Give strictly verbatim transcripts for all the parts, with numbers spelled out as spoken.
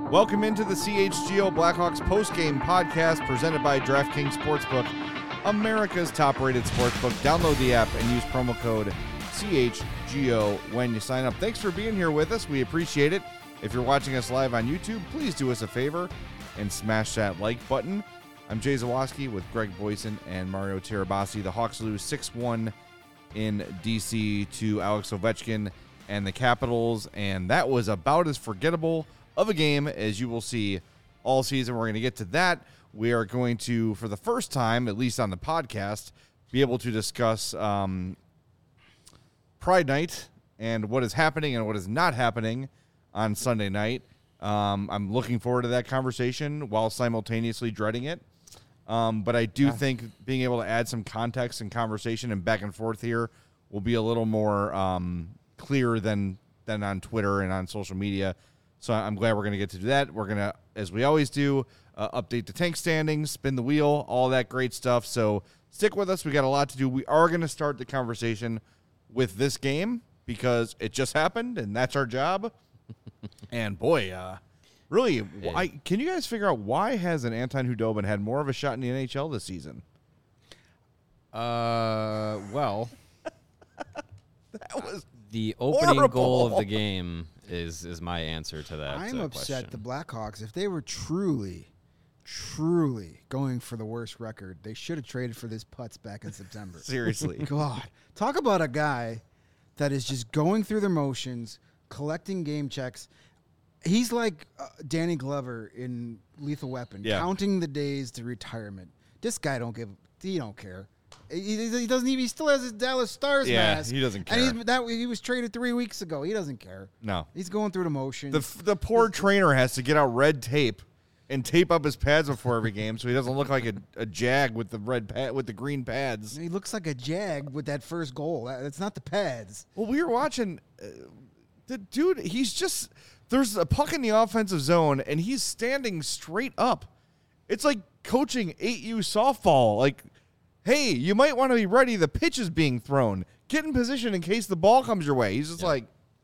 Welcome into the C H G O Blackhawks postgame podcast presented by DraftKings Sportsbook, America's top-rated sportsbook. Download the app and use promo code C H G O when you sign up. Thanks for being here with us. We appreciate it. If you're watching us live on YouTube, please do us a favor and smash that like button. I'm Jay Zawoski with Greg Boyson and Mario Tirabassi. The Hawks lose six one in D C to Alex Ovechkin and the Capitals, and that was about as forgettable of a game as you will see all season. We're going to get to that. We are going to, for the first time, at least on the podcast, be able to discuss um, Pride Night and what is happening and what is not happening on Sunday night. Um, I'm looking forward to that conversation while simultaneously dreading it. Um, but I do yeah. think being able to add some context and conversation and back and forth here will be a little more um, clear than than on Twitter and on social media. So I'm glad we're going to get to do that. We're going to, as we always do, uh, update the tank standings, spin the wheel, all that great stuff. So stick with us. We got a lot to do. We are going to start the conversation with this game because it just happened, and that's our job. And boy, uh, really, why, can you guys figure out why hasn't Anton Khudobin had more of a shot in the N H L this season? Uh, well, that was the opening horrible. goal of the game is is my answer to that. I'm uh, upset question. the Blackhawks, if they were truly, truly going for the worst record, they should have traded for this putz back in September. Seriously. God. Talk about a guy that is just going through the motions, collecting game checks. He's like uh, Danny Glover in Lethal Weapon, yeah. counting the days to retirement. This guy don't give, he don't care. He, he doesn't even, he still has his Dallas Stars yeah, mask. he doesn't care. And he's, that, he was traded three weeks ago. He doesn't care. No. He's going through the motions. The, the poor trainer has to get out red tape and tape up his pads before every game so he doesn't look like a, a jag with the red pad, with the green pads. He looks like a jag with that first goal. That's not the pads. Well, we were watching uh, the dude. He's just there's a puck in the offensive zone and he's standing straight up. It's like coaching eight U softball. Like, hey, you might want to be ready. The pitch is being thrown. Get in position in case the ball comes your way. He's just yeah. like,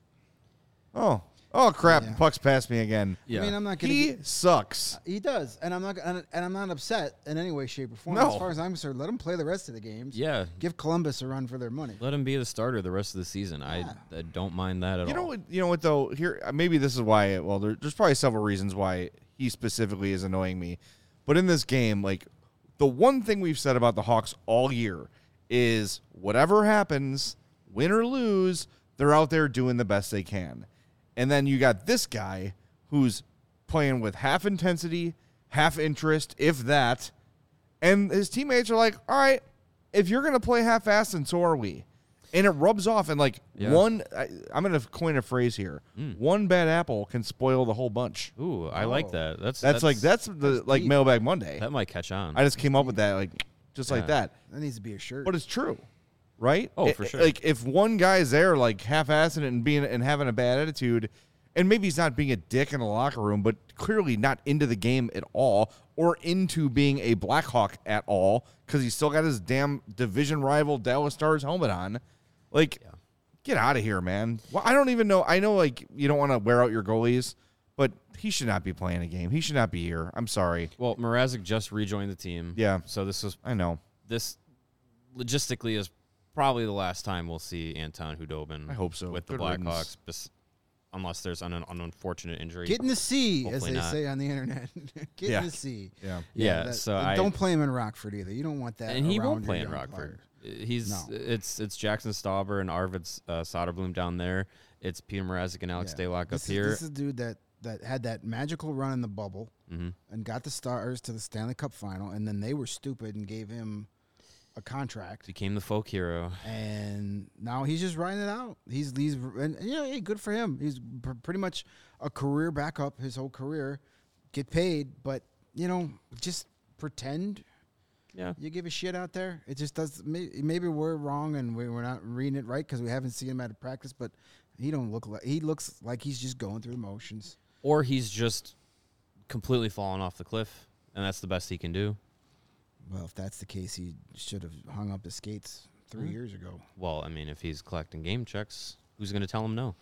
oh. Oh crap! Yeah. The puck's past me again. Yeah. I mean, I'm not gonna. He get, sucks. He does, and I'm not. And I'm not upset in any way, shape, or form. No. As far as I'm concerned, let him play the rest of the games. Yeah. Give Columbus a run for their money. Let him be the starter the rest of the season. Yeah. I, I don't mind that at you all. know what? You know what though? Here, maybe this is why. Well, there, there's probably several reasons why he specifically is annoying me. But in this game, like the one thing we've said about the Hawks all year is whatever happens, win or lose, they're out there doing the best they can. And then you got this guy who's playing with half intensity, half interest, if that. And his teammates are like, all right, if you're going to play half-assed, then so are we. And it rubs off. And, like, yeah. one, I, I'm going to coin a phrase here. Mm. One bad apple can spoil the whole bunch. Ooh, I oh. like that. That's, that's that's like, that's the, that's like, deep. Mailbag Monday. That might catch on. I just came up with that, like, just yeah. like that. That needs to be a shirt. But it's true. Right? Oh, it, for sure. Like, if one guy's there, like, half-assing it and being and having a bad attitude, and maybe he's not being a dick in the locker room, but clearly not into the game at all or into being a Blackhawk at all because he's still got his damn division rival Dallas Stars helmet on. Like, yeah. get out of here, man. Well, I don't even know. I know, like, you don't want to wear out your goalies, but he should not be playing a game. He should not be here. I'm sorry. Well, Mrazek just rejoined the team. Yeah. So this was... I know. This logistically is probably the last time we'll see Anton Khudobin. I hope so. With Good the Blackhawks, riddance. unless there's an, an unfortunate injury. Get in the sea, Hopefully as they not. say on the internet. Get yeah. in the sea. Yeah. Yeah. yeah that, so and I don't play him in Rockford either. You don't want that. And he around won't play your in young Rockford. player. He's No. it's it's Jackson Stauber and Arvid uh, Soderblom down there. It's Peter Mrazek and Alex Yeah. Daylock up this here. Is, this is a dude that, that had that magical run in the bubble mm-hmm. and got the Stars to the Stanley Cup final, and then they were stupid and gave him a contract. Became the folk hero. And now he's just riding it out. He's he's and, and yeah, hey, good for him. He's pr- pretty much a career backup his whole career. Get paid, but you know, just pretend. Yeah, you give a shit out there. It just does. Maybe we're wrong and we're not reading it right because we haven't seen him at a practice. But he don't look like he looks like he's just going through the motions. Or he's just completely fallen off the cliff, and that's the best he can do. Well, if that's the case, he should have hung up his skates three mm-hmm. years ago. Well, I mean, if he's collecting game checks, who's going to tell him no?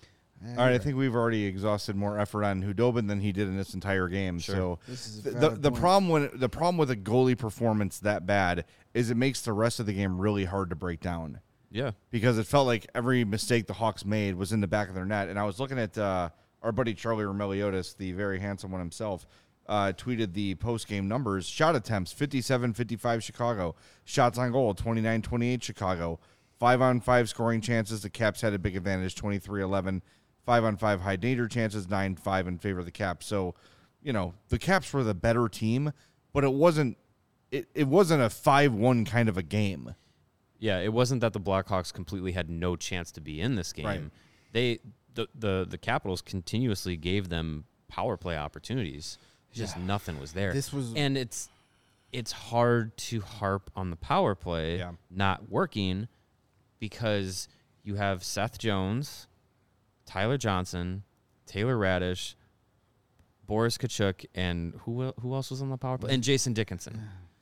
Yeah, All right, I right. think we've already exhausted more effort on Hudobin than he did in this entire game. Sure. So This is a the the, valid the point. problem when the problem with a goalie performance that bad is it makes the rest of the game really hard to break down. Yeah. Because it felt like every mistake the Hawks made was in the back of their net. And I was looking at uh, our buddy Charlie Romeliotis, the very handsome one himself, uh, tweeted the post-game numbers. Shot attempts, fifty-seven fifty-five Chicago. Shots on goal, twenty-nine twenty-eight Chicago. Five-on-five scoring chances, the Caps had a big advantage, twenty-three eleven. Five-on-five high danger chances, nine five in favor of the Caps. So, you know, the Caps were the better team, but it wasn't it, it wasn't a five one kind of a game. Yeah, it wasn't that the Blackhawks completely had no chance to be in this game. Right. They the, the the Capitals continuously gave them power play opportunities. Just Yeah. nothing was there. This was- and it's it's hard to harp on the power play Yeah. not working because you have Seth Jones, Tyler Johnson, Taylor Radish, Boris Kachuk, and who el- who else was on the power play? And Jason Dickinson.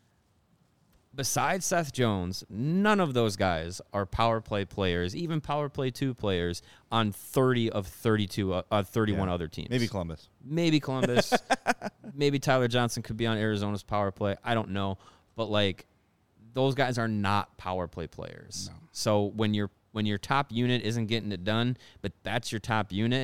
Besides Seth Jones, none of those guys are power play players, even power play two players on thirty of thirty-two, uh, uh, thirty-one Yeah. other teams. Maybe Columbus. Maybe Columbus. Maybe Tyler Johnson could be on Arizona's power play. I don't know. But, like, those guys are not power play players. No. So when your when your top unit isn't getting it done, but that's your top unit,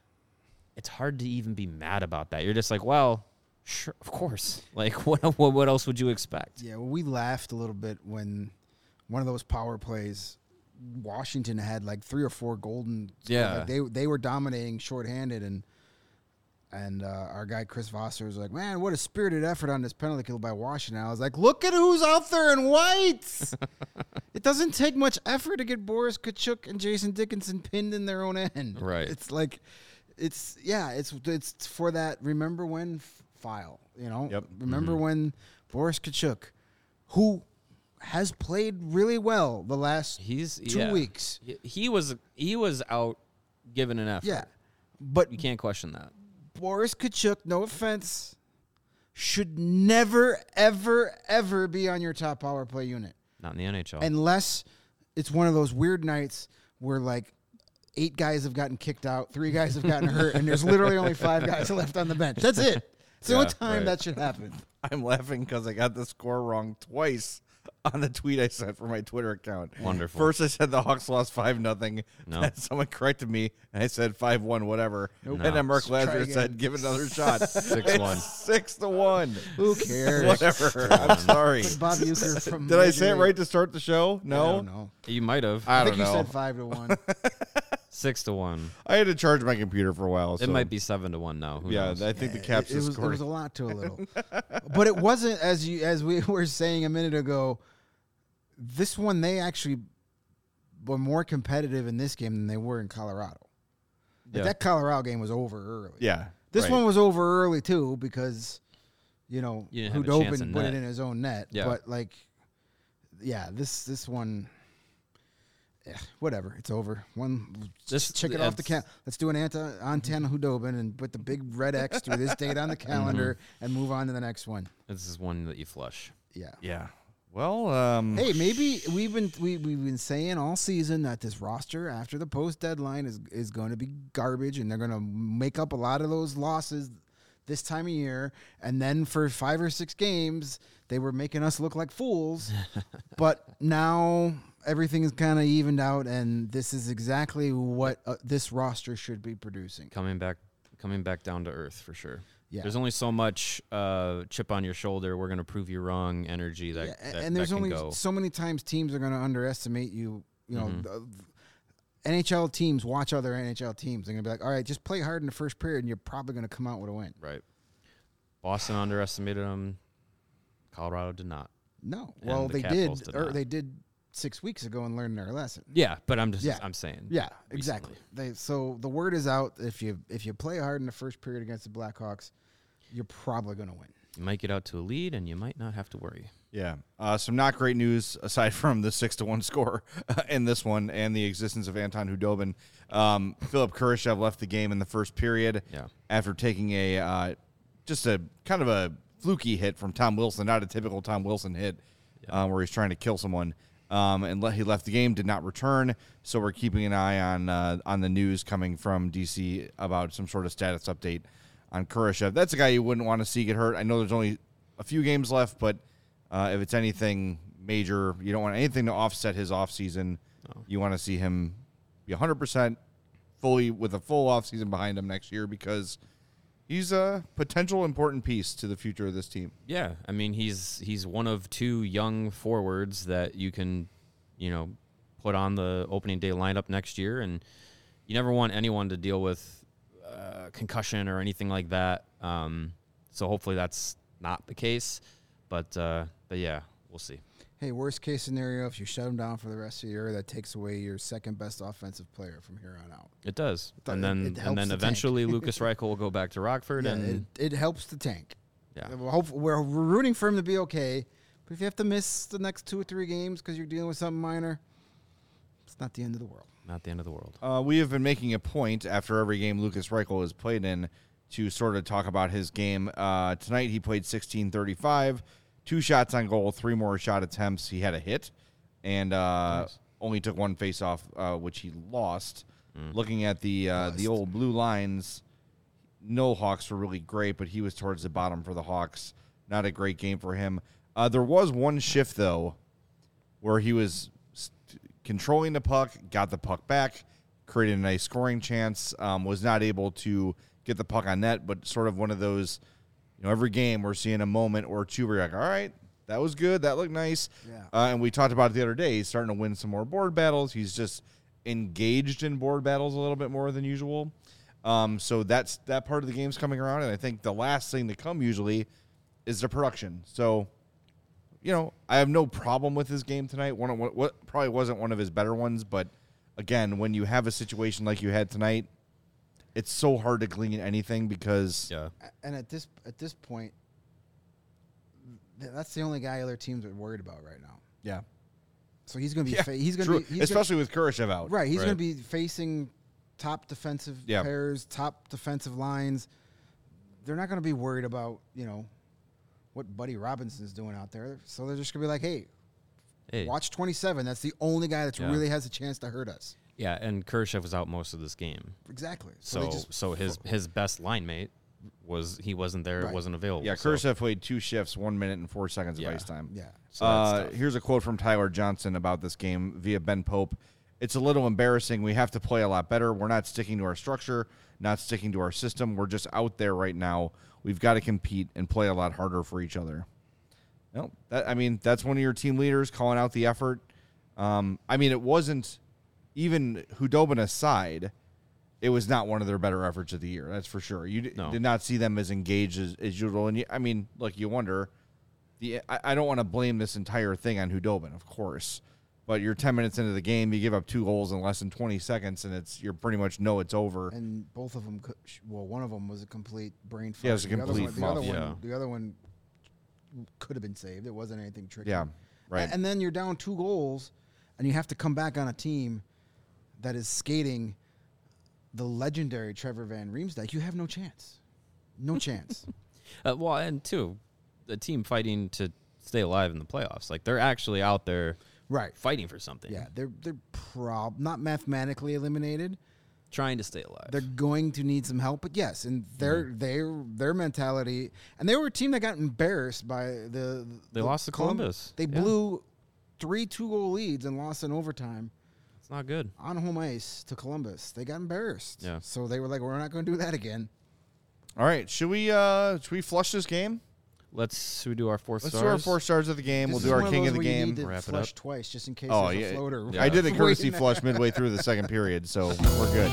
it's hard to even be mad about that. You're just like, well, sure, of course. Like, what what, what else would you expect? Yeah, well, we laughed a little bit when one of those power plays, Washington had like three or four golden. Yeah. like they they were dominating shorthanded, and and uh, our guy Chris Vosser was like, "Man, what a spirited effort on this penalty kill by Washington." I was like, "Look at who's out there in white." It doesn't take much effort to get Boris Kachuk and Jason Dickinson pinned in their own end. Right. It's like, it's yeah, it's it's for that. Remember when f- file, you know? Yep. Remember when Boris Kachuk, who has played really well the last He's two yeah. weeks. He, he was he was out giving an effort. Yeah. But You can't question that. Boris Kachuk, no offense, should never, ever, ever be on your top power play unit. Not in the N H L. Unless it's one of those weird nights where, like, eight guys have gotten kicked out, three guys have gotten hurt, and there's literally only five guys left on the bench. That's it. It's the Yeah, only time right. that should happen. I'm laughing because I got the score wrong twice on the tweet I sent for my Twitter account. Wonderful. First, I said the Hawks lost five nothing. No. Then someone corrected me, and I said five one, whatever. Nope. And then Mark Let's try Lazar again. said, "Give it another shot." Six one. Six to one. Who cares? Whatever. I'm sorry. Bob Uecker from Did I Major say it League. right to start the show? I No. don't know. You might have. I I don't think you know. said five to one. Six to one. I had to charge my computer for a while. It so- might be seven to one now. Who Yeah, knows? I think the Yeah, Caps it, it just was, it scored. was a lot to a little, but it wasn't as you as we were saying a minute ago. This one, they actually were more competitive in this game than they were in Colorado. Like, Yeah. that Colorado game was over early. Yeah. This right. one was over early too because, you know, You didn't have a chance Hudobin in put net. it in his own net. Yeah. But like, yeah, this this one, eh, whatever, it's over. One, This- just check it off the it's- count. Let's do an Anta Antan Hudobin and put the big red X through this date on the calendar and move on to the next one. This is one that you flush. Yeah. Yeah. Well, um, Hey, maybe we've been we, we've been saying all season that this roster after the post deadline is is going to be garbage, and they're going to make up a lot of those losses this time of year. And then for five or six games, they were making us look like fools. But now everything is kind of evened out, and this is exactly what uh, this roster should be producing. Coming back, coming back down to earth for sure. Yeah. There's only so much uh, chip on your shoulder. We're gonna prove you wrong. Energy that, Yeah, a- that and there's that can only go. so many times teams are going to underestimate you. You know, Mhm. the- N H L teams watch other N H L teams. They're going to be like, all right, just play hard in the first period, and you're probably going to come out with a win. Right. Boston underestimated them. Colorado did not. No, And well, the they Capitals did, did or not. they did six weeks ago and learned their lesson. Yeah, but I'm just Yeah. I'm saying. Yeah, exactly. They so the word is out. If you if you play hard in the first period against the Blackhawks, you're probably going to win. You might get out to a lead, and you might not have to worry. Yeah. Uh, some not great news aside from the six to one score in this one and the existence of Anton Hudobin. Um, Philip Kurashev left the game in the first period Yeah. after taking a uh, just a kind of a fluky hit from Tom Wilson, not a typical Tom Wilson hit uh, where he's trying to kill someone. um, and le- he left the game, did not return. So we're keeping an eye on uh, on the news coming from D C about some sort of status update on Kurashev. That's a guy you wouldn't want to see get hurt. I know there's only a few games left, but uh, if it's anything major, you don't want anything to offset his offseason. No. You want to see him be one hundred percent fully with a full offseason behind him next year because he's a potential important piece to the future of this team. Yeah, I mean he's he's one of two young forwards that you can, you know, put on the opening day lineup next year, and you never want anyone to deal with uh, concussion or anything like that. Um, so hopefully that's not the case, but uh, but yeah, we'll see. Hey, worst case scenario, if you shut him down for the rest of the year, that takes away your second best offensive player from here on out. It does, It- and then it helps and then the eventually tank. Lucas Reichel will go back to Rockford, Yeah, and it, it helps the tank. yeah, We're, hope, we're we're rooting for him to be okay, but if you have to miss the next two or three games because you're dealing with something minor, it's not the end of the world. not the end of the world. Uh, we have been making a point after every game Lucas Reichel has played in to sort of talk about his game. Uh, tonight he played sixteen thirty-five, two shots on goal, three more shot attempts. He had a hit and uh, Nice. only took one face-off, uh, which he lost. Mm. Looking at the uh, the Lost. old blue lines, no Hawks were really great, but he was towards the bottom for the Hawks. Not a great game for him. Uh, there was one shift, though, where he was st- controlling the puck, got the puck back, created a nice scoring chance, um, was not able to get the puck on net, but sort of one of those, you know, every game we're seeing a moment or two where you're like, all right, that was good, that looked nice. Yeah. Uh, and we talked about it the other day. He's starting to win some more board battles. He's just engaged in board battles a little bit more than usual. Um, so that's that part of the game's coming around, and I think the last thing to come usually is the production. So, you know, I have no problem with his game tonight. One of what, what probably wasn't one of his better ones, but again, when you have a situation like you had tonight, it's so hard to glean anything because Yeah, A- And at this at this point, th- that's the only guy other teams are worried about right now. yeah, So he's going to be yeah, fa- he's going true. to be he's especially with Kurashev out. gonna, right. He's Right. going to be facing top defensive Yeah. pairs, top defensive lines. They're not going to be worried about you know what Buddy Robinson's doing out there. So they're just going to be like, hey, hey, watch twenty-seven. That's the only guy that Yeah. really has a chance to hurt us. yeah, and Kurashev was out most of this game, Exactly. so they just- so his his best line mate was he wasn't there, Right. wasn't available. Yeah, so, Kurashev played two shifts, one minute and four seconds Yeah. of ice time. yeah. so that's Uh, tough. here's a quote from Tyler Johnson about this game via Ben Pope. It's a little embarrassing. We have to play a lot better. We're not sticking to our structure, not sticking to our system. We're just out there right now. We've got to compete and play a lot harder for each other. No, that I mean that's one of your team leaders calling out the effort. Um, I mean it wasn't even Hudobin aside. It was not one of their better efforts of the year. That's for sure. You d- No. did not see them as engaged as, as usual. And you, I mean, look, you wonder. The I, I don't want to blame this entire thing on Hudobin, of course, but you're ten minutes into the game, you give up two goals in less than twenty seconds, and it's you're pretty much know it's over. And both of them, could, well, one of them was a complete brain fart. Yeah, it was a The other complete one- the other muff. one, Yeah. the other one could have been saved. It wasn't anything tricky. Yeah, right. A- And then you're down two goals, and you have to come back on a team that is skating the legendary Trevor Van Riemsdyk. You have no chance. No chance. Uh, well, and two, the team fighting to stay alive in the playoffs. Like they're actually out there Right. fighting for something. Yeah, they're they're prob not mathematically eliminated. trying to stay alive. They're going to need some help, but yes, and their Mm-hmm. their their mentality, and they were a team that got embarrassed by the. They the lost to Colum- Columbus. They Yeah. blew three two goal leads and lost in overtime It's not good. on home ice to Columbus. They got embarrassed. Yeah. So they were like, "We're not going to do that again." All right, should we uh should we flush this game? Let's should we do our four Let's stars? do our four stars of the game. This we'll is do our one king those of the where you game. need to Wrap it flush up. twice just in case Oh, there's yeah. a floater. Yeah. I did a courtesy waiting. flush midway through the second period, so we're good.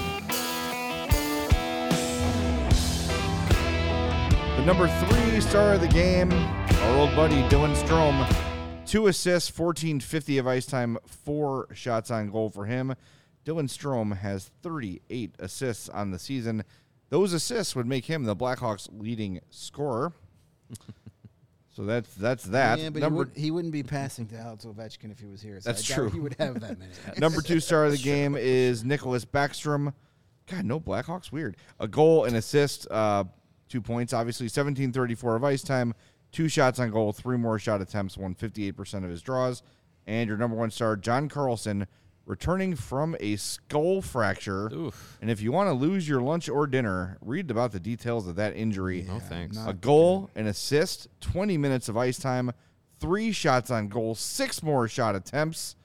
The number three star of the game, our old buddy Dylan Strome. Two assists, fourteen fifty of ice time, four shots on goal for him. Dylan Strome has thirty-eight assists on the season. Those assists would make him the Blackhawks' leading scorer. So that's that's that. Yeah, but number he, would, he wouldn't be passing to Alex Ovechkin if he was here. So That's I doubt true. He would have that many. Number two star of the game is Nicholas Backstrom. God, no Blackhawks. Weird. A goal, an assist, uh, two points, obviously. seventeen thirty-four of ice time, two shots on goal, three more shot attempts, won fifty-eight percent of his draws. And your number one star, John Carlson, returning from a skull fracture. Oof. And if you want to lose your lunch or dinner, read about the details of that injury. No thanks. not A goal, an assist, twenty minutes of ice time, three shots on goal, six more shot attempts,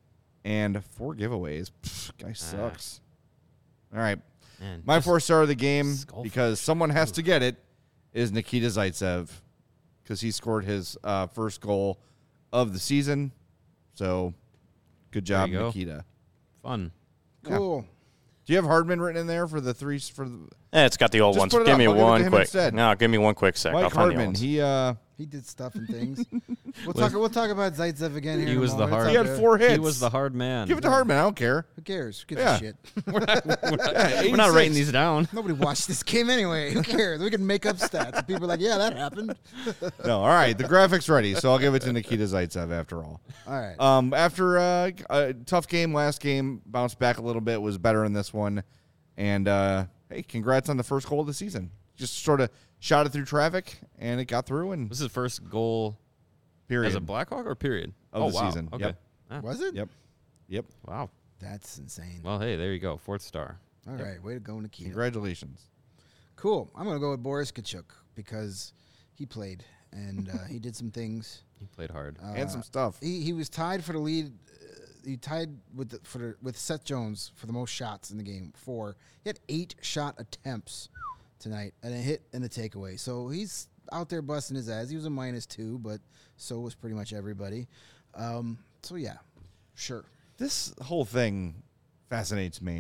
and four giveaways. Pfft, guy sucks. All right. Man, My just four star of the game, skull because someone has to get it, is Nikita Zaitsev, because he scored his uh, first goal of the season. So, good job, you go. Nikita. fun. Cool. Do you have Hardman written in there for the three? For the Eh, it's got the old Just ones. put it Give up. me I'll give it to one him quick. instead. No, give me one quick sec. I'll Mike find the Hardman? ones. He uh, He did stuff and things. We'll talk. We'll talk about Zaitsev again here. He in a was the moment. hard- It's he all had good. four hits. He was the hard man. Give it to Hardman. I don't care. Who cares? Who gives Yeah. a shit? We're not, Yeah, we're not writing eighty-six. these down. Nobody watched this game anyway. Who cares? We can make up stats. And people are like, yeah, that happened. No, all right. The graphic's ready, so I'll give it to Nikita Zaitsev after all. All right. Um, after uh, a tough game last game, bounced back a little bit, was better in this one. And, uh, hey, congrats on the first goal of the season. Just sort of shot it through traffic, and it got through, and This is his first goal period. as a Blackhawk or period? Of oh, the wow. season. Okay. Yep. Ah, Was it? Yep. Yep. Wow. That's insane. Well, hey, there you go. Fourth star. All right. Way to go, Nikita. Congratulations. Cool. I'm going to go with Boris Kachuk because he played and uh, he did some things. He played hard. Uh, And some stuff. He he was tied for the lead. Uh, he tied with the, for the, with Seth Jones for the most shots in the game. Four. He had eight shot attempts tonight and a hit and a takeaway. So he's out there busting his ass. He was a minus two, but so was pretty much everybody. Um, so yeah, sure. This whole thing fascinates me.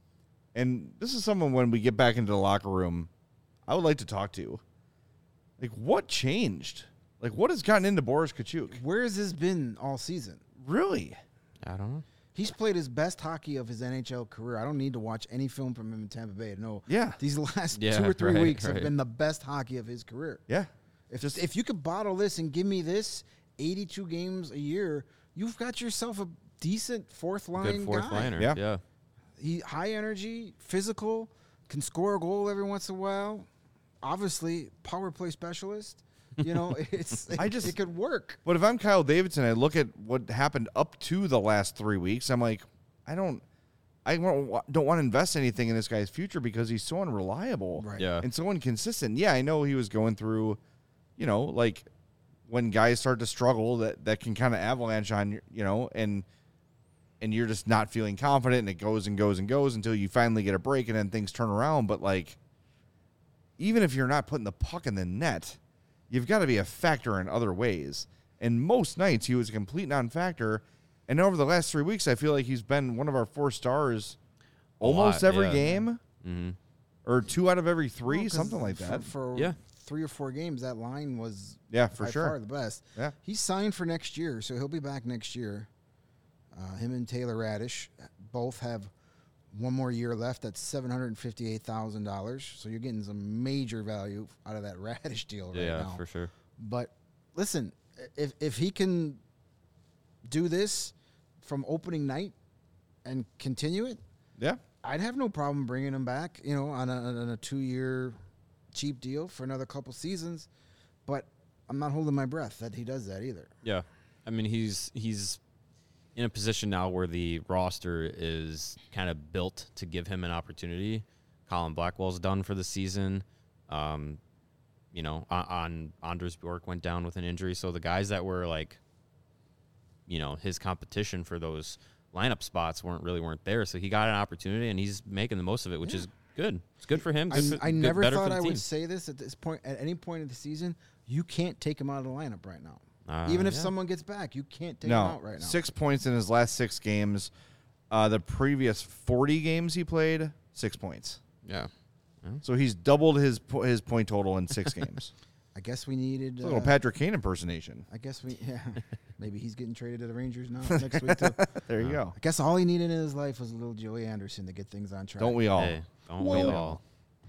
And this is someone, when we get back into the locker room, I would like to talk to. Like, what changed? Like, what has gotten into Boris Kachuk? Where has this been all season? Really? I don't know. He's played his best hockey of his N H L career. I don't need to watch any film from him in Tampa Bay to know. Yeah. These last Yeah, two or three right, weeks have right. been the best hockey of his career. Yeah. If Just- if you could bottle this and give me this eighty-two games a year, you've got yourself a decent fourth line Good fourth guy. liner. Yeah. Yeah. He high energy, physical, can score a goal every once in a while. Obviously, power play specialist. You know, it's I it, just- it could work. But if I'm Kyle Davidson, I look at what happened up to the last three weeks. I'm like, I don't, I won't- don't want to invest anything in this guy's future because he's so unreliable, Right. Yeah. and so inconsistent. Yeah, I know he was going through, you know, like when guys start to struggle, that that can kind of avalanche on you, you know, and and you're just not feeling confident, and it goes and goes and goes until you finally get a break, and then things turn around. But like, even if you're not putting the puck in the net, you've got to be a factor in other ways. And most nights he was a complete non-factor. And over the last three weeks, I feel like he's been one of our four stars A almost lot, every yeah. game, Mm-hmm. or two out of every three, Well, 'cause something like for- that. For, Yeah. three or four games, that line was Yeah, for by sure. far the best. Yeah. He's signed for next year, so he'll be back next year. Uh, him and Taylor Radish both have one more year left. That's seven hundred fifty-eight thousand dollars. So you're getting some major value out of that Radish deal right Yeah, now. for sure. But listen, if if he can do this from opening night and continue it, Yeah. I'd have no problem bringing him back, you know, on a, on a two-year cheap deal for another couple seasons. But I'm not holding my breath that he does that either. Yeah. I mean, he's he's in a position now where the roster is kind of built to give him an opportunity. Colin Blackwell's done for the season. Um, you know, on, on Anders Bjork went down with an injury. So the guys that were like, you know, his competition for those lineup spots weren't really weren't there. So he got an opportunity and he's making the most of it, which is good. It's good for him. I, Good for- I good- never better for thought the I team. would say this at this point. At any point of the season, you can't take him out of the lineup right now. Uh, Even if yeah. someone gets back, you can't take him No. out right now. Six points in his last six games. Uh, the previous forty games he played, six points. Yeah. So he's doubled his po- his point total in six games. I guess we needed. It's a little uh, Patrick Kane impersonation. I guess we. Yeah, maybe he's getting traded to the Rangers now next week too. There you go. I guess all he needed in his life was a little Joey Anderson to get things on track. Don't we all? Hey, don't Whoa. we all?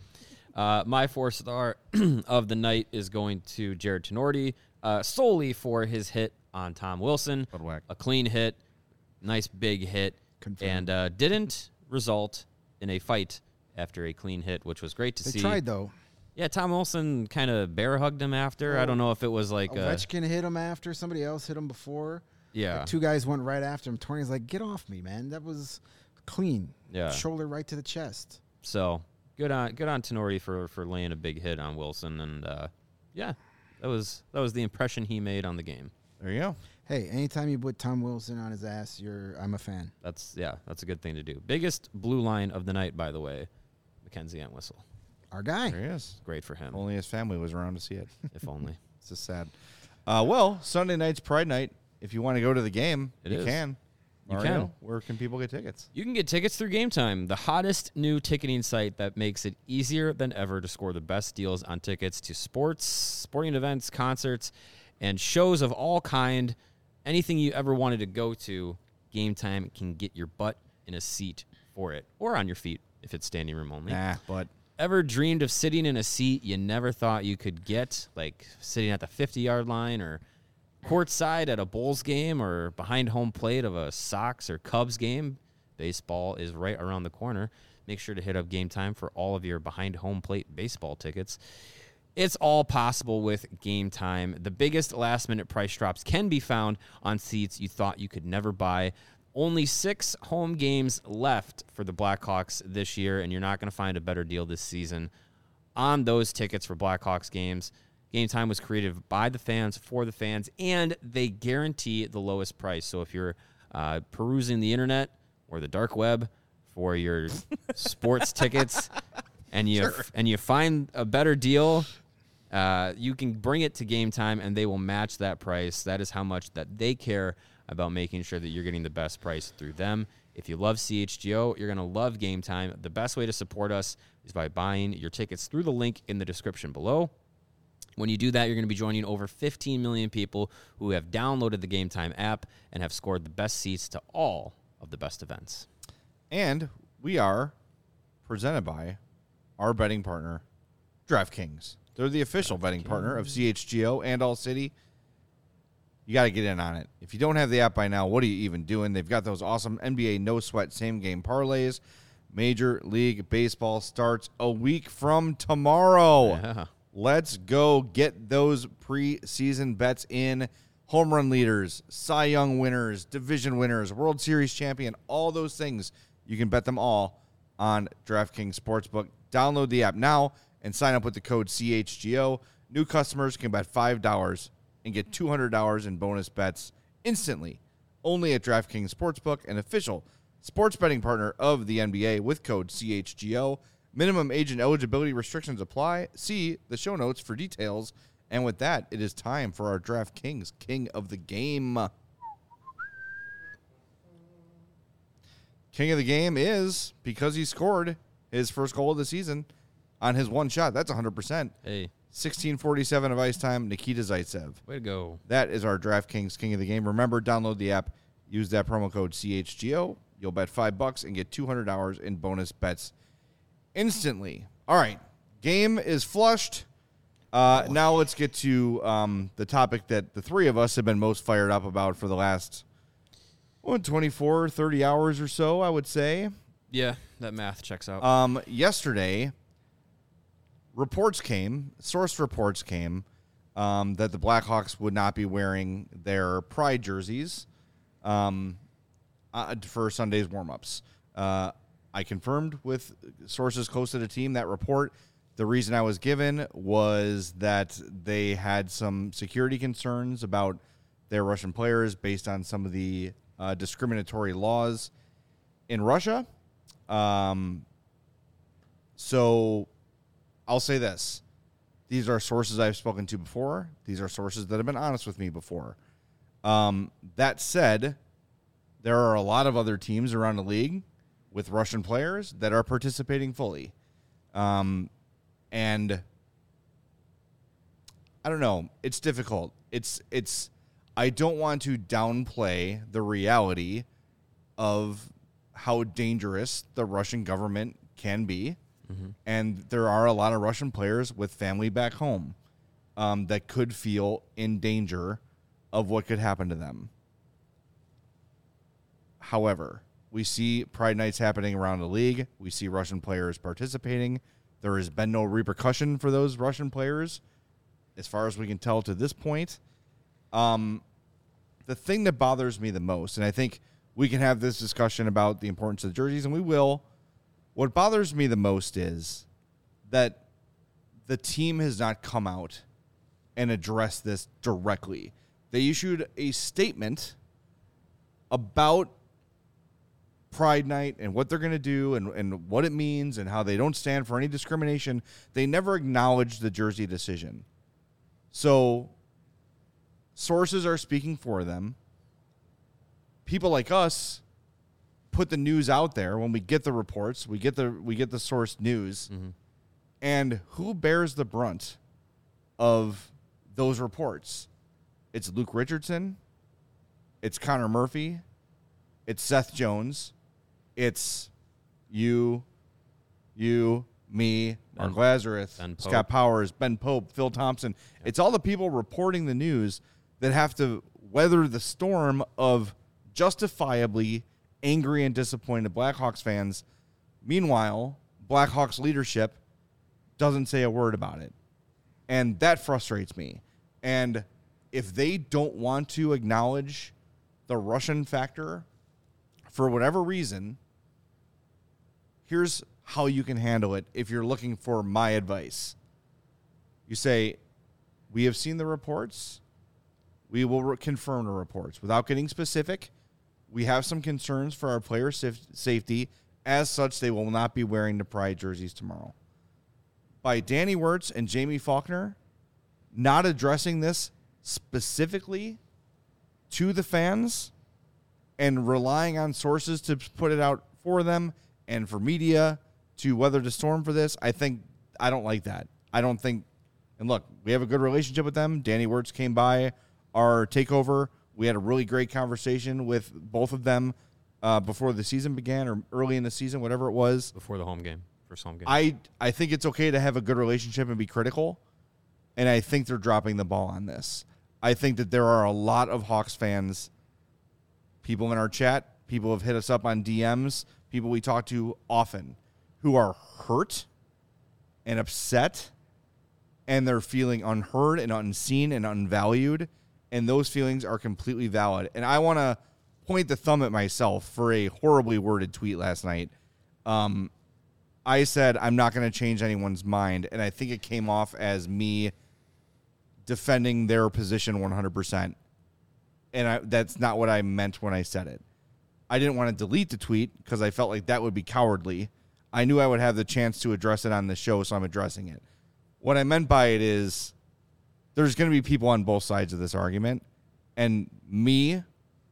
Uh, my four star of the night is going to Jared Tenorti, uh, solely for his hit on Tom Wilson. Good whack. A clean hit, nice big hit, Confirmed. and uh, didn't result in a fight after a clean hit, which was great to They see. tried though. Yeah, Tom Wilson kind of bear hugged him after. I don't know if it was like uh, Ovechkin hit him after somebody else hit him before. Yeah. Like two guys went right after him. Torney's like, get off me, man. That was clean. Yeah. Shoulder right to the chest. So good on good on Tenori for, for laying a big hit on Wilson, and uh, yeah, that was that was the impression he made on the game. There you go. Hey, anytime you put Tom Wilson on his ass, you're I'm a fan. That's yeah, that's a good thing to do. Biggest blue line of the night, by the way, Mackenzie Entwistle. Our guy. There he is. Great for him. Only his family was around to see it. If only. It's just sad. Uh, well, Sunday night's Pride Night. If you want to go to the game, It you is. can. You Mario, can. Where can people get tickets? You can get tickets through Game Time, the hottest new ticketing site that makes it easier than ever to score the best deals on tickets to sports, sporting events, concerts, and shows of all kind. Anything you ever wanted to go to, Game Time can get your butt in a seat for it, or on your feet if it's standing room only. Nah, but Ever dreamed of sitting in a seat you never thought you could get, like sitting at the fifty-yard line or courtside at a Bulls game or behind home plate of a Sox or Cubs game? Baseball is right around the corner. Make sure to hit up Game Time for all of your behind home plate baseball tickets. It's all possible with Game Time. The biggest last-minute price drops can be found on seats you thought you could never buy. Only six home games left for the Blackhawks this year, and you're not going to find a better deal this season on those tickets for Blackhawks games. Game Time was created by the fans, for the fans, and they guarantee the lowest price. So if you're uh, perusing the internet or the dark web for your sports tickets and you Sure. and you find a better deal, uh, you can bring it to Game Time, and they will match that price. That is how much that they care about making sure that you're getting the best price through them. If you love C H G O, you're going to love Game Time. The best way to support us is by buying your tickets through the link in the description below. When you do that, you're going to be joining over fifteen million people who have downloaded the Game Time app and have scored the best seats to all of the best events. And we are presented by our betting partner, DraftKings. They're the official betting partner of C H G O and All City. You got to get in on it. If you don't have the app by now, what are you even doing? They've got those awesome N B A no-sweat same-game parlays. Major League Baseball starts a week from tomorrow. Yeah. Let's go get those preseason bets in. Home run leaders, Cy Young winners, division winners, World Series champion, all those things. You can bet them all on DraftKings Sportsbook. Download the app now and sign up with the code C H G O. New customers can bet five dollars and get two hundred dollars in bonus bets instantly. Only at DraftKings Sportsbook, an official sports betting partner of the N B A with code C H G O. Minimum age and eligibility restrictions apply. See the show notes for details. And with that, it is time for our DraftKings King of the Game. King of the Game is because he scored his first goal of the season on his one shot. That's one hundred percent. Hey, sixteen forty-seven of ice time, Nikita Zaitsev. way to go. That is our DraftKings King of the Game. Remember, download the app. Use that promo code C H G O. You'll bet five bucks and get two hundred dollars in bonus bets instantly. All right. Game is flushed. Uh, now let's get to um, the topic that the three of us have been most fired up about for the last well, twenty-four, thirty hours or so, I would say. Yeah, that math checks out. Um, yesterday, reports came, source reports came, um, that the Blackhawks would not be wearing their Pride jerseys um, uh, for Sunday's warm-ups. Uh, I confirmed with sources close to the team that report. The reason I was given was that they had some security concerns about their Russian players based on some of the uh, discriminatory laws in Russia. Um, so I'll say this. These are sources I've spoken to before. These are sources that have been honest with me before. Um, that said, there are a lot of other teams around the league with Russian players that are participating fully. Um, and I don't know. It's difficult. It's, it's, I don't want to downplay the reality of how dangerous the Russian government can be. Mm-hmm. And there are a lot of Russian players with family back home um, that could feel in danger of what could happen to them. However, we see Pride Nights happening around the league. We see Russian players participating. There has been no repercussion for those Russian players, as far as we can tell to this point. Um, the thing that bothers me the most, and I think we can have this discussion about the importance of the jerseys, and we will. What bothers me the most is that the team has not come out and addressed this directly. They issued a statement about Pride Night and what they're going to do and, and what it means and how they don't stand for any discrimination. They never acknowledged the jersey decision. So sources are speaking for them. People like us put the news out there when we get the reports, we get the we get the source news, Mm-hmm. and who bears the brunt of those reports? It's Luke Richardson, it's Connor Murphy, it's Seth Jones, it's you, you, me, Mark Ben- Lazarus, Ben Pope. Scott Powers, Ben Pope, Phil Thompson. It's all the people reporting the news that have to weather the storm of justifiably angry and disappointed Blackhawks fans. Meanwhile, Blackhawks leadership doesn't say a word about it. And that frustrates me. And if they don't want to acknowledge the Russian factor for whatever reason, here's how you can handle it if you're looking for my advice. You say, we have seen the reports. We will re- confirm the reports. Without getting specific, we have some concerns for our player saf- safety. As such, they will not be wearing the Pride jerseys tomorrow. By Danny Wirtz and Jamie Faulkner not addressing this specifically to the fans and relying on sources to put it out for them and for media to weather the storm for this, I think I don't like that. I don't think, and look, we have a good relationship with them. Danny Wirtz came by our takeover. We had a really great conversation with both of them uh, before the season began or early in the season, whatever it was. Before the home game, first home game. I, I think it's okay to have a good relationship and be critical, and I think they're dropping the ball on this. I think that there are a lot of Hawks fans, people in our chat, people have hit us up on D Ms, people we talk to often, who are hurt and upset, and they're feeling unheard and unseen and unvalued, and those feelings are completely valid. And I want to point the thumb at myself for a horribly worded tweet last night. Um, I said, I'm not going to change anyone's mind, and I think it came off as me defending their position one hundred percent. And I, that's not what I meant when I said it. I didn't want to delete the tweet because I felt like that would be cowardly. I knew I would have the chance to address it on the show, so I'm addressing it. What I meant by it is there's going to be people on both sides of this argument, and me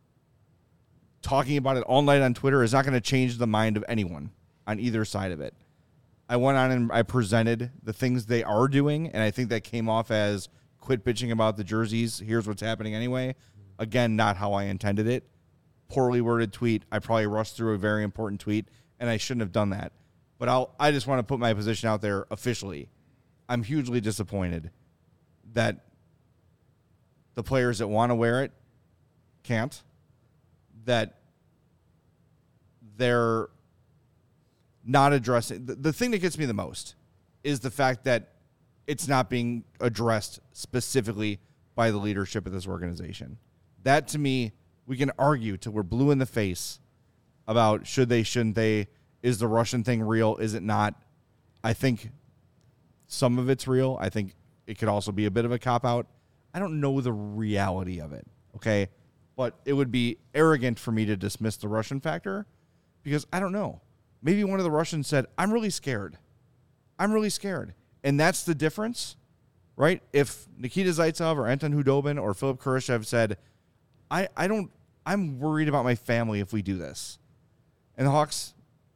talking about it all night on Twitter is not going to change the mind of anyone on either side of it. I went on and I presented the things they are doing, and I think that came off as quit bitching about the jerseys. Here's what's happening anyway. Again, not how I intended it. Poorly worded tweet. I probably rushed through a very important tweet, and I shouldn't have done that. But I'll, I just want to put my position out there officially. I'm hugely disappointed that the players that want to wear it can't, that they're not addressing. The, the thing that gets me the most is the fact that it's not being addressed specifically by the leadership of this organization. That, to me, we can argue till we're blue in the face about should they, shouldn't they, is the Russian thing real, is it not? I think some of it's real. I think it could also be a bit of a cop-out. I don't know the reality of it, okay? But it would be arrogant for me to dismiss the Russian factor because I don't know. Maybe one of the Russians said, I'm really scared. I'm really scared. And that's the difference, right? If Nikita Zaitsev or Anton Hudobin or Philip Khrushchev said, I, I don't, I'm worried about my family if we do this. And the Hawks,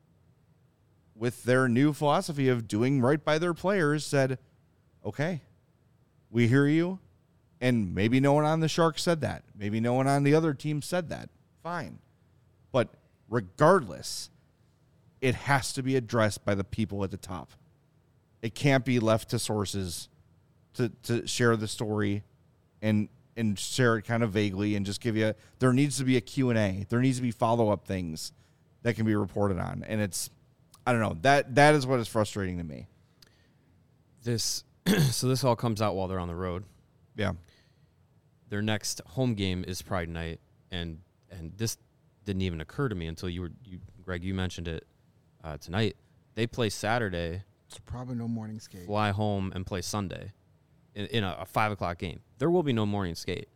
with their new philosophy of doing right by their players, said, okay, we hear you. And maybe no one on the Sharks said that. Maybe no one on the other team said that. Fine. But regardless, it has to be addressed by the people at the top. It can't be left to sources to, to share the story and and share it kind of vaguely and just give you a, there needs to be a Q and A. There needs to be follow-up things that can be reported on. And it's, I don't know, that that is what is frustrating to me. This, so this all comes out while they're on the road. Yeah. their next home game is Pride Night, and and this didn't even occur to me until you were you Greg you mentioned it uh, tonight. They play Saturday, So probably no morning skate. fly home, and play Sunday in, in a, a five o'clock game. There will be no morning skate.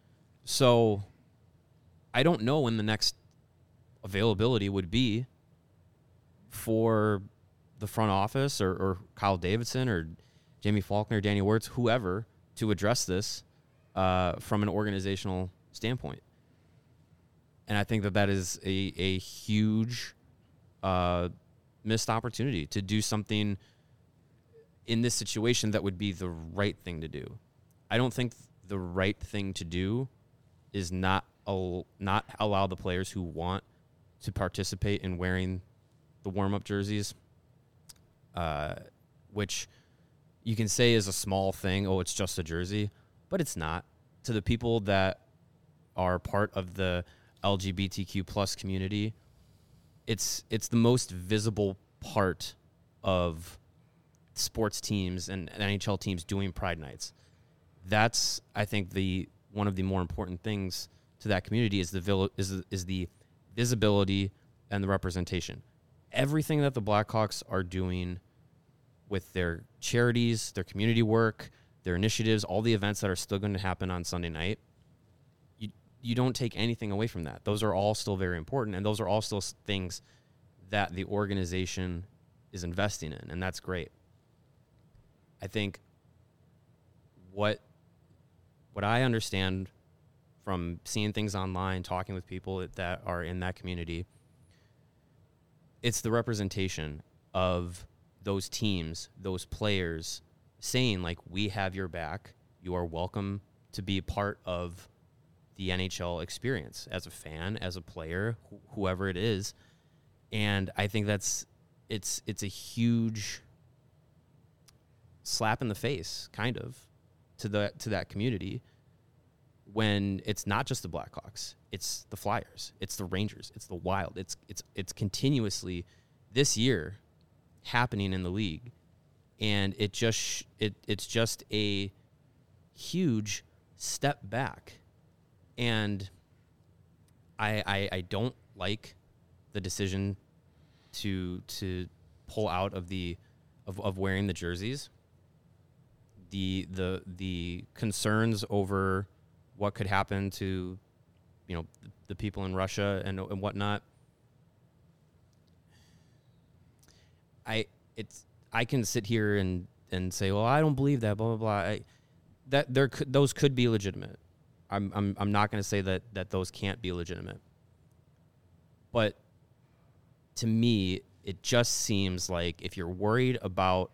So I don't know when the next availability would be for the front office or, or Kyle Davidson or Jamie Faulkner, Danny Wirtz, whoever, to address this uh, from an organizational standpoint. And I think that that is a, a huge uh, missed opportunity to do something in this situation that would be the right thing to do. I don't think the right thing to do is not al- not allow the players who want to participate in wearing the warm-up jerseys, uh, which you can say is a small thing. Oh, it's just a jersey, but it's not. To the people that are part of the L G B T Q plus community, it's it's the most visible part of sports teams and N H L teams doing Pride Nights. That's, I think, the one of the more important things to that community is the vil- is is the visibility and the representation. Everything that the Blackhawks are doing with their charities, their community work, their initiatives, all the events that are still going to happen on Sunday night, you you don't take anything away from that. Those are all still very important, and those are all still things that the organization is investing in, and that's great. I think what what I understand from seeing things online, talking with people that are in that community, it's the representation of those teams, those players saying, like, we have your back. You are welcome to be part of the N H L experience as a fan, as a player, wh- whoever it is. And I think that's it's it's a huge slap in the face, kind of, to the to that community when it's not just the Blackhawks, it's the Flyers, it's the Rangers, it's the Wild. It's it's it's continuously this year happening in the league, and it just sh- it it's just a huge step back. And I I, I don't like the decision to to pull out of the of, of wearing the jerseys. The the the concerns over what could happen to, you know, the, the people in Russia and and whatnot. I it's I can sit here and, and say, well, I don't believe that, blah blah blah. I, that there could those could be legitimate. I'm I'm I'm not going to say that that those can't be legitimate. But to me, it just seems like if you're worried about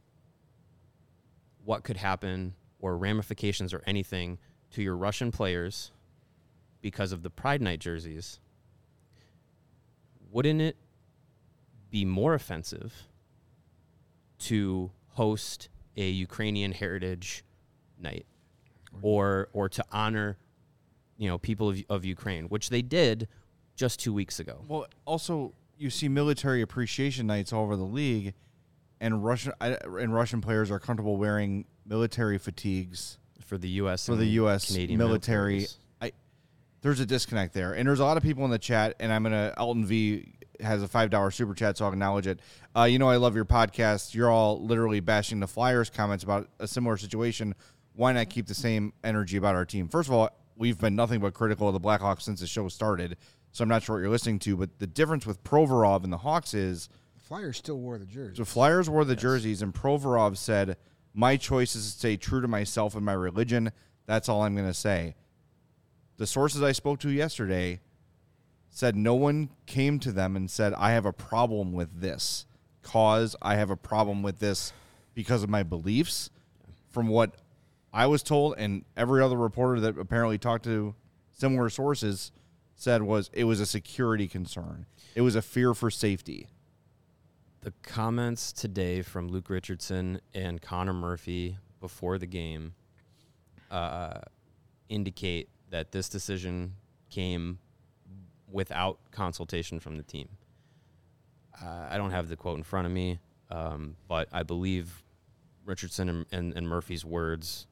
what could happen or ramifications or anything to your Russian players because of the Pride Night jerseys, wouldn't it be more offensive to host a Ukrainian heritage night or or to honor, you know, people of, of Ukraine, which they did just two weeks ago? Well, also, you see military appreciation nights all over the league, and Russian I, and Russian players are comfortable wearing military fatigues For the U S for and the U S Canadian military. militaries. I there's a disconnect there, and there's a lot of people in the chat, and I'm gonna Elton V has a five dollar super chat, so I'll acknowledge it. Uh, you know, I love your podcast. You're all literally bashing the Flyers comments about a similar situation. Why not keep the same energy about our team? First of all, we've been nothing but critical of the Blackhawks since the show started, so I'm not sure what you're listening to. But the difference with Provorov and the Hawks is Flyers still wore the jersey. the Flyers wore the jerseys, and Provorov said, my choice is to stay true to myself and my religion. That's all I'm going to say. The sources I spoke to yesterday said no one came to them and said, I have a problem with this cause. I have a problem with this because of my beliefs. From what I was told, and every other reporter that apparently talked to similar sources said, was it was a security concern. It was a fear for safety. The comments today from Luke Richardson and Connor Murphy before the game uh, indicate that this decision came without consultation from the team. Uh, I don't have the quote in front of me, um, but I believe Richardson and, and, and Murphy's words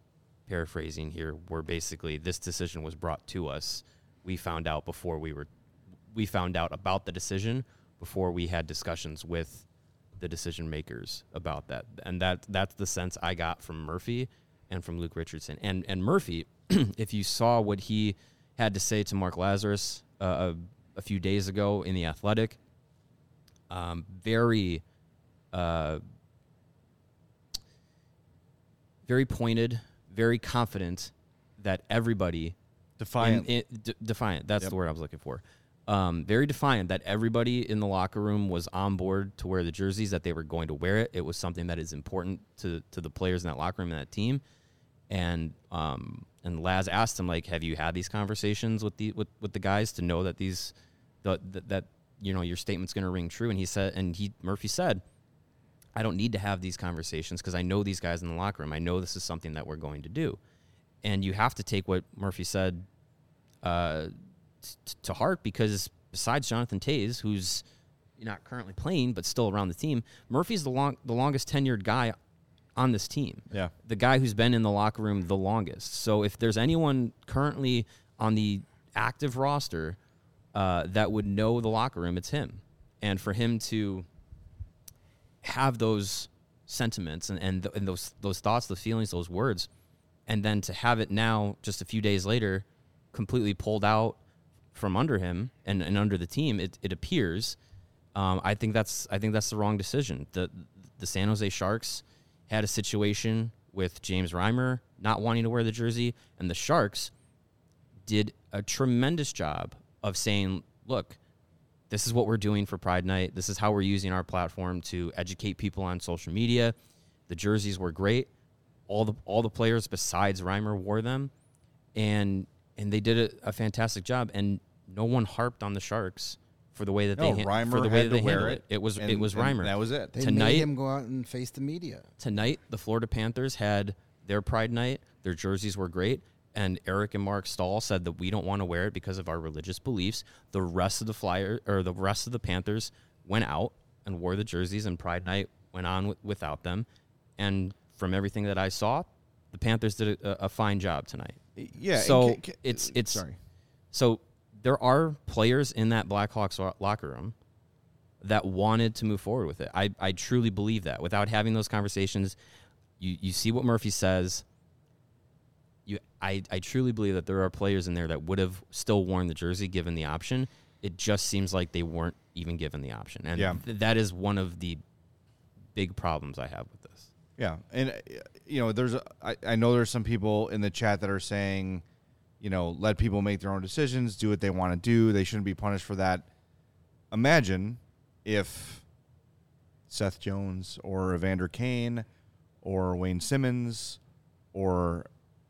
paraphrasing here, where basically this decision was brought to us. We found out before we were, we found out about the decision before we had discussions with the decision makers about that. And that that's the sense I got from Murphy and from Luke Richardson. And and Murphy, if you saw what he had to say to Mark Lazarus uh, a, a few days ago in The Athletic, um, very, uh, very pointed, very confident that everybody Defiant. in- in- d- defiant. That's Yep. the word I was looking for. Um, very defiant that everybody in the locker room was on board to wear the jerseys, that they were going to wear it. It was something that is important to to the players in that locker room and that team. And um, and Laz asked him, like, have you had these conversations with the with, with the guys to know that these the, the, that you know your statement's going to ring true? And he said, and he Murphy said, I don't need to have these conversations because I know these guys in the locker room. I know this is something that we're going to do. And you have to take what Murphy said uh, t- to heart, because besides Jonathan Taze, who's not currently playing but still around the team, Murphy's the long the longest tenured guy on this team. Yeah. The guy who's been in the locker room the longest. So if there's anyone currently on the active roster uh, that would know the locker room, it's him. And for him to have those sentiments and, and, th- and those those thoughts, those feelings, those words, and then to have it now, just a few days later, completely pulled out from under him and, and under the team, it, it appears. Um, I think that's I think that's the wrong decision. The the San Jose Sharks had a situation with James Reimer not wanting to wear the jersey, and the Sharks did a tremendous job of saying, look, this is what we're doing for Pride Night. This is how we're using our platform to educate people on social media. The jerseys were great. All the all the players besides Reimer wore them, and and they did a, a fantastic job. And no one harped on the Sharks for the way that No, they ha- Reimer for the way had that to they wear handled it, it. It was and- it was and Reimer. that was it. They Tonight- made him go out and face the media. Tonight, the Florida Panthers had their Pride Night. Their jerseys were great. And Eric and Mark Stahl said that we don't want to wear it because of our religious beliefs. The rest of the Flyer or the rest of the Panthers went out and wore the jerseys, and Pride Night went on w- without them. And from everything that I saw, the Panthers did a, a fine job tonight. Yeah. So and ca- ca- it's it's sorry. So there are players in that Blackhawks lo- locker room that wanted to move forward with it. I, I truly believe that. Without having those conversations, you, you see what Murphy says. You I, I truly believe that there are players in there that would have still worn the jersey given the option. It just seems like they weren't even given the option. And Yeah. th- that is one of the big problems I have with this. Yeah, and uh, you know, there's a, I, I know there's some people in the chat that are saying, you know, let people make their own decisions, do what they want to do. They shouldn't be punished for that. Imagine if Seth Jones or Evander Kane or Wayne Simmons or,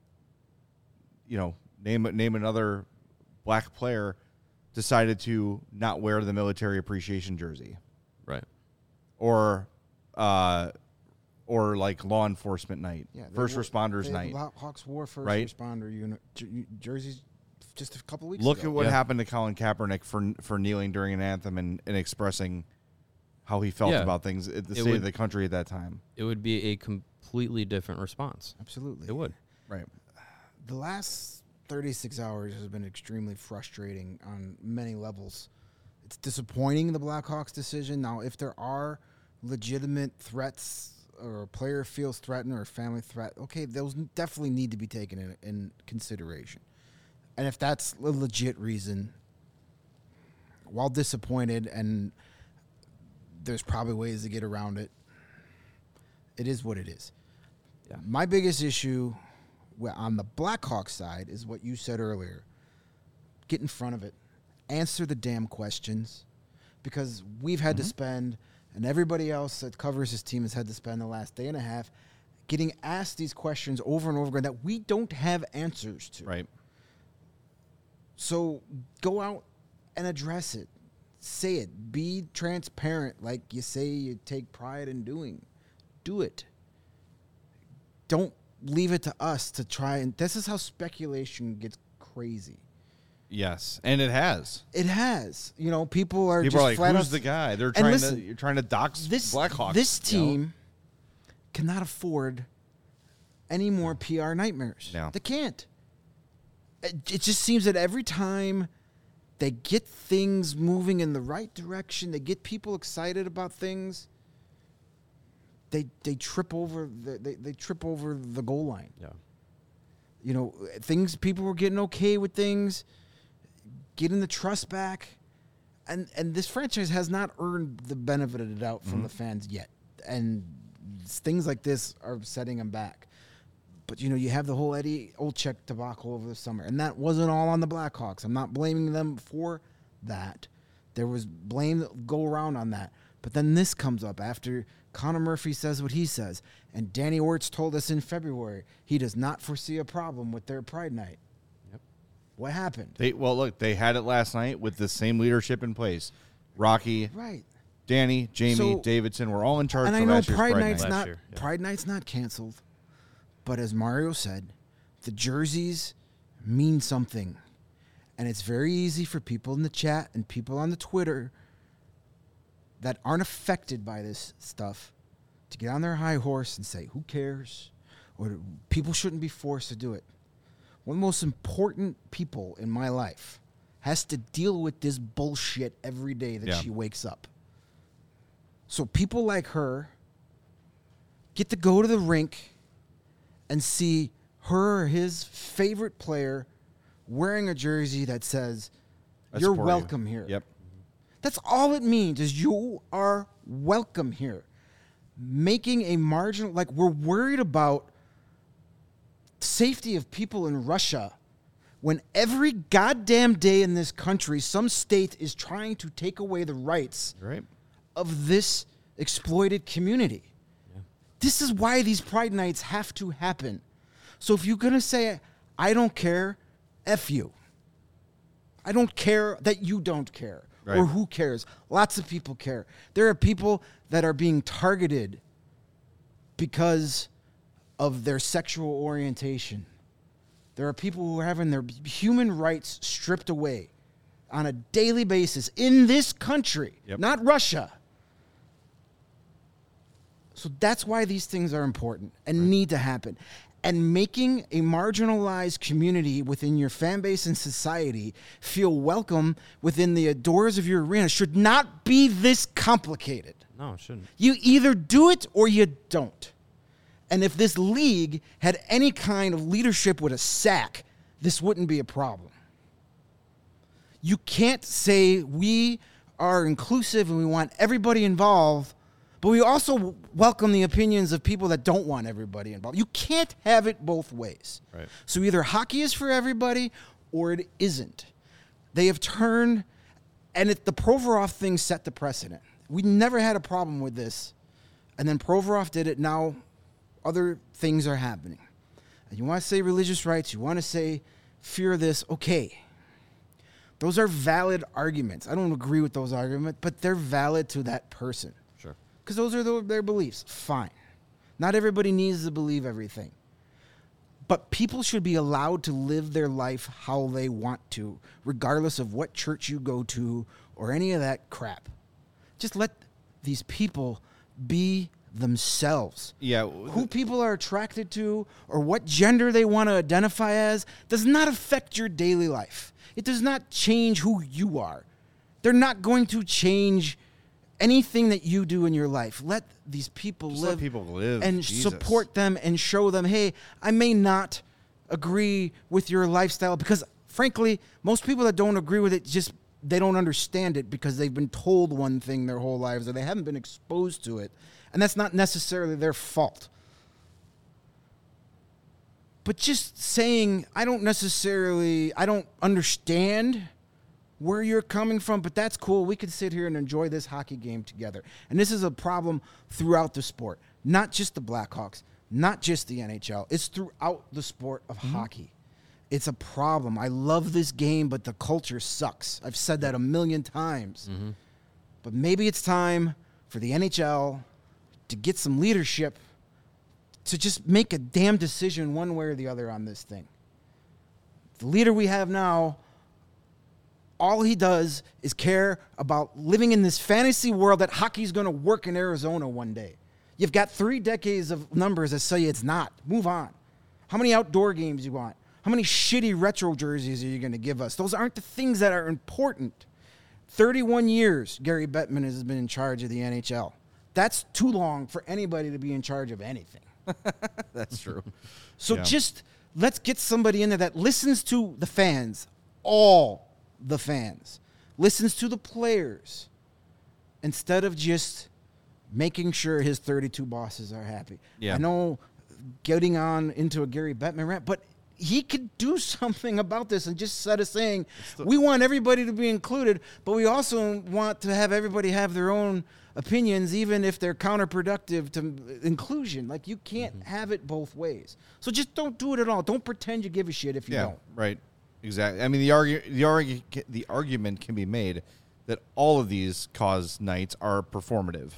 you know, name name another black player decided to not wear the military appreciation jersey, Right. or uh, or like law enforcement night, Yeah, they first wore- responders they- night. Hawks wore first Right? responder uni- jer- jerseys just a couple weeks Look ago. at what Yeah. happened to Colin Kaepernick for for kneeling during an anthem and, and expressing how he felt Yeah. about things at the It state would- of the country at that time. It would be a completely different response. Absolutely. It would. Right. The last thirty-six hours has been extremely frustrating on many levels. It's disappointing, the Blackhawks decision. Now, if there are legitimate threats or a player feels threatened or a family threat, okay, those definitely need to be taken in, in consideration. And if that's a legit reason, while disappointed, and there's probably ways to get around it, it is what it is. Yeah. My biggest issue well, on the Blackhawks side is what you said earlier. Get in front of it. Answer the damn questions, because we've had to spend, and everybody else that covers this team has had to spend the last day and a half getting asked these questions over and over again that we don't have answers to. Right. So go out and address it. Say it. Be transparent like you say you take pride in doing. Do it. Don't leave it to us to try and... This is how speculation gets crazy. Yes, and it has. It has. You know, people are People just are like, flat "Who's out- the guy?" They're And trying listen, to you're trying to dox This Blackhawks. This you know? team cannot afford any more P R nightmares. No. They can't. It, it just seems that every time they get things moving in the right direction, they get people excited about things, they they trip over the, they, they trip over the goal line. Yeah. You know, things, people were getting okay with things, getting the trust back. And and this franchise has not earned the benefit of the doubt from mm-hmm. the fans yet. And things like this are setting them back. But, you know, you have the whole Eddie Olczyk debacle over the summer. And that wasn't all on the Blackhawks. I'm not blaming them for that. There was blame that go around on that. But then this comes up after Connor Murphy says what he says. And Danny Orts told us in February he does not foresee a problem with their Pride Night. Yep. What happened? They well, look, they had it last night with the same leadership in place. Rocky, right. Danny, Jamie, So- Davidson were all in charge And for I know last year's Pride Pride Night's Night. Last not year, yeah. Pride Night's not canceled. But as Mario said, the jerseys mean something. And it's very easy for people in the chat and people on the Twitter that aren't affected by this stuff to get on their high horse and say, who cares? Or people shouldn't be forced to do it. One of the most important people in my life has to deal with this bullshit every day that Yeah. she wakes up. So people like her get to go to the rink and see her or his favorite player wearing a jersey that says, I you're support you. welcome here. Yep. That's all it means is you are welcome here. Making a marginal, like we're worried about safety of people in Russia when every goddamn day in this country, some state is trying to take away the rights Right. of this exploited community. Yeah. This is why these Pride Nights have to happen. So if you're going to say, I don't care, F you. I don't care that you don't care. Right. Or who cares? Lots of people care. There are people that are being targeted because of their sexual orientation. There are people who are having their human rights stripped away on a daily basis in this country, Yep. not Russia. So that's why these things are important and right. need to happen. And making a marginalized community within your fan base and society feel welcome within the doors of your arena should not be this complicated. No, it shouldn't. You either do it or you don't. And if this league had any kind of leadership with a sack, this wouldn't be a problem. You can't say we are inclusive and we want everybody involved, but we also welcome the opinions of people that don't want everybody involved. You can't have it both ways. Right. So either hockey is for everybody or it isn't. They have turned, and it, the Provorov thing set the precedent. We never had a problem with this, and then Provorov did it. Now other things are happening. And you want to say religious rights, you want to say fear of this, okay. Those are valid arguments. I don't agree with those arguments, but they're valid to that person. Sure. Because those are the, their beliefs. Fine. Not everybody needs to believe everything. But people should be allowed to live their life how they want to, regardless of what church you go to or any of that crap. Just let these people be themselves. Yeah. Who people are attracted to or what gender they want to identify as does not affect your daily life. It does not change who you are. They're not going to change anything that you do in your life. Let these people Just live, let people live. and Jesus. support them and show them, hey, I may not agree with your lifestyle because, frankly, most people that don't agree with it just they don't understand it because they've been told one thing their whole lives or they haven't been exposed to it. And that's not necessarily their fault. But just saying, I don't necessarily, I don't understand where you're coming from, but that's cool. We can sit here and enjoy this hockey game together. And this is a problem throughout the sport. Not just the Blackhawks, not just the N H L. It's throughout the sport of mm-hmm. hockey. It's a problem. I love this game, but the culture sucks. I've said that a million times. Mm-hmm. But maybe it's time for the N H L to get some leadership to just make a damn decision one way or the other on this thing. The leader we have now, all he does is care about living in this fantasy world that hockey's going to work in Arizona one day. You've got three decades of numbers that say it's not. Move on. How many outdoor games you want? How many shitty retro jerseys are you going to give us? Those aren't the things that are important. thirty-one years Gary Bettman has been in charge of the N H L. That's too long for anybody to be in charge of anything. That's true. So Yeah. just let's get somebody in there that listens to the fans, all the fans, listens to the players, instead of just making sure his thirty-two bosses are happy. Yeah. I know getting on into a Gary Bettman rant, but he could do something about this and just set a saying, we want everybody to be included, but we also want to have everybody have their own opinions, even if they're counterproductive to inclusion. Like, you can't Mm-hmm. have it both ways. So just don't do it at all. Don't pretend you give a shit if you Yeah, don't. right. Exactly. I mean, the argu- the argu- the argument can be made that all of these cause nights are performative,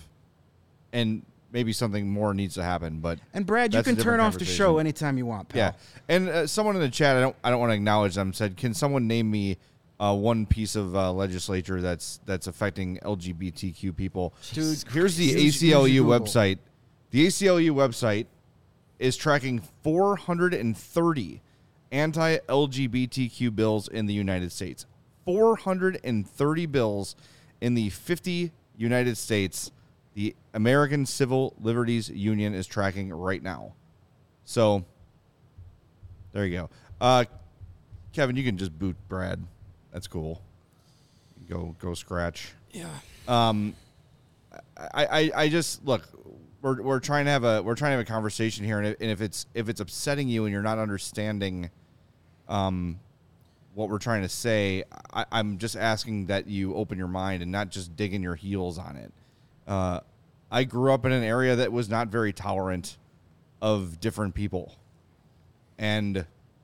and maybe something more needs to happen. But And Brad, you that's a can turn different off the show conversation. anytime you want, pal. Yeah, and uh, someone in the chat, I don't, I don't want to acknowledge them, said, "Can someone name me uh, one piece of uh, legislature that's that's affecting L G B T Q people?" Dude, Here's the use- A C L U use your Google. website. The A C L U website is tracking four hundred thirty anti-L G B T Q bills in the United States. four hundred thirty bills in the fifty United States. The American Civil Liberties Union is tracking right now. So, there you go. Uh, Kevin, you can just boot Brad. That's cool. Go, go scratch. Yeah. Um, I, I, I just look. We're we're trying to have a we're trying to have a conversation here, and if, and if it's if it's upsetting you and you're not understanding, um, what we're trying to say, I, I'm just asking that you open your mind and not just digging your heels on it. Uh, I grew up in an area that was not very tolerant of different people, and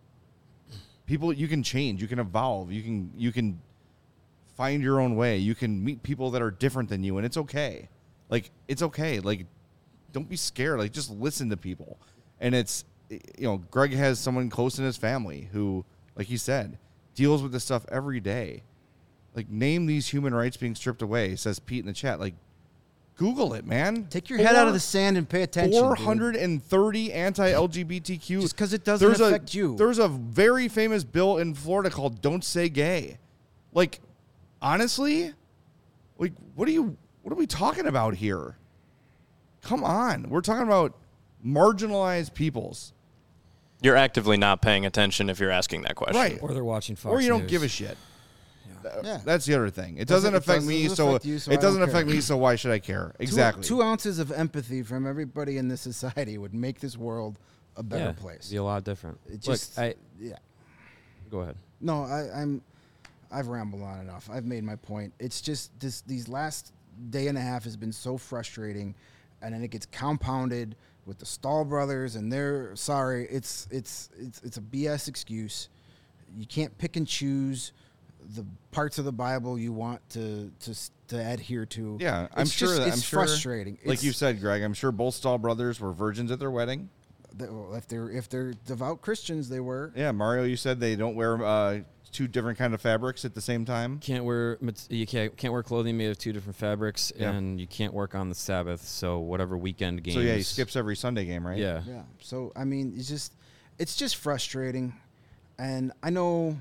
people you can change, you can evolve, you can you can find your own way, you can meet people that are different than you, and it's okay. Like it's okay. Like don't be scared. Like just listen to people, and it's you know Greg has someone close in his family who, like he said, deals with this stuff every day. Like name these human rights being stripped away, says Pete in the chat. Like Google it, man. Take your head out of the sand and pay attention. four dude. hundred thirty anti-L G B T Q. Just 'cause it doesn't There's affect a, you. There's a very famous bill in Florida called "Don't Say Gay." Like, honestly, like what are you? What are we talking about here? Come on, we're talking about marginalized peoples, You're actively not paying attention if you're asking that question. right? Or they're watching Fox Or you don't News. give a shit. Th- Yeah. That's the other thing. It Doesn't- doesn't, it affect doesn't me, so, affect you, so I it doesn't don't affect care. me. So why should I care? Two- Exactly. Two, ounces of empathy from everybody in this society would make this world a better yeah, place. Be a lot different. It Look, just, I yeah. go ahead. No, I, I'm. I've rambled on enough. I've made my point. It's just this. These last day and a half has been so frustrating, and then it gets compounded with the Stahl brothers, and they're sorry. It's it's it's it's a B S excuse. You can't pick and choose the parts of the Bible you want to to s- to adhere to. Yeah, I'm It's sure. just- that, it's I'm sure, frustrating. Like It's- you said, Greg, I'm sure both Stahl brothers were virgins at their wedding. that- well, if they're if they're devout Christians, they were. Yeah, Mario, you said they don't wear uh, two different kind of fabrics at the same time. Can't wear mat- you can't can't wear clothing made of two different fabrics, Yeah. and you can't work on the Sabbath. So whatever weekend games. So yeah, he skips every Sunday game, right? Yeah. Yeah. So I mean, it's just it's just frustrating, and I know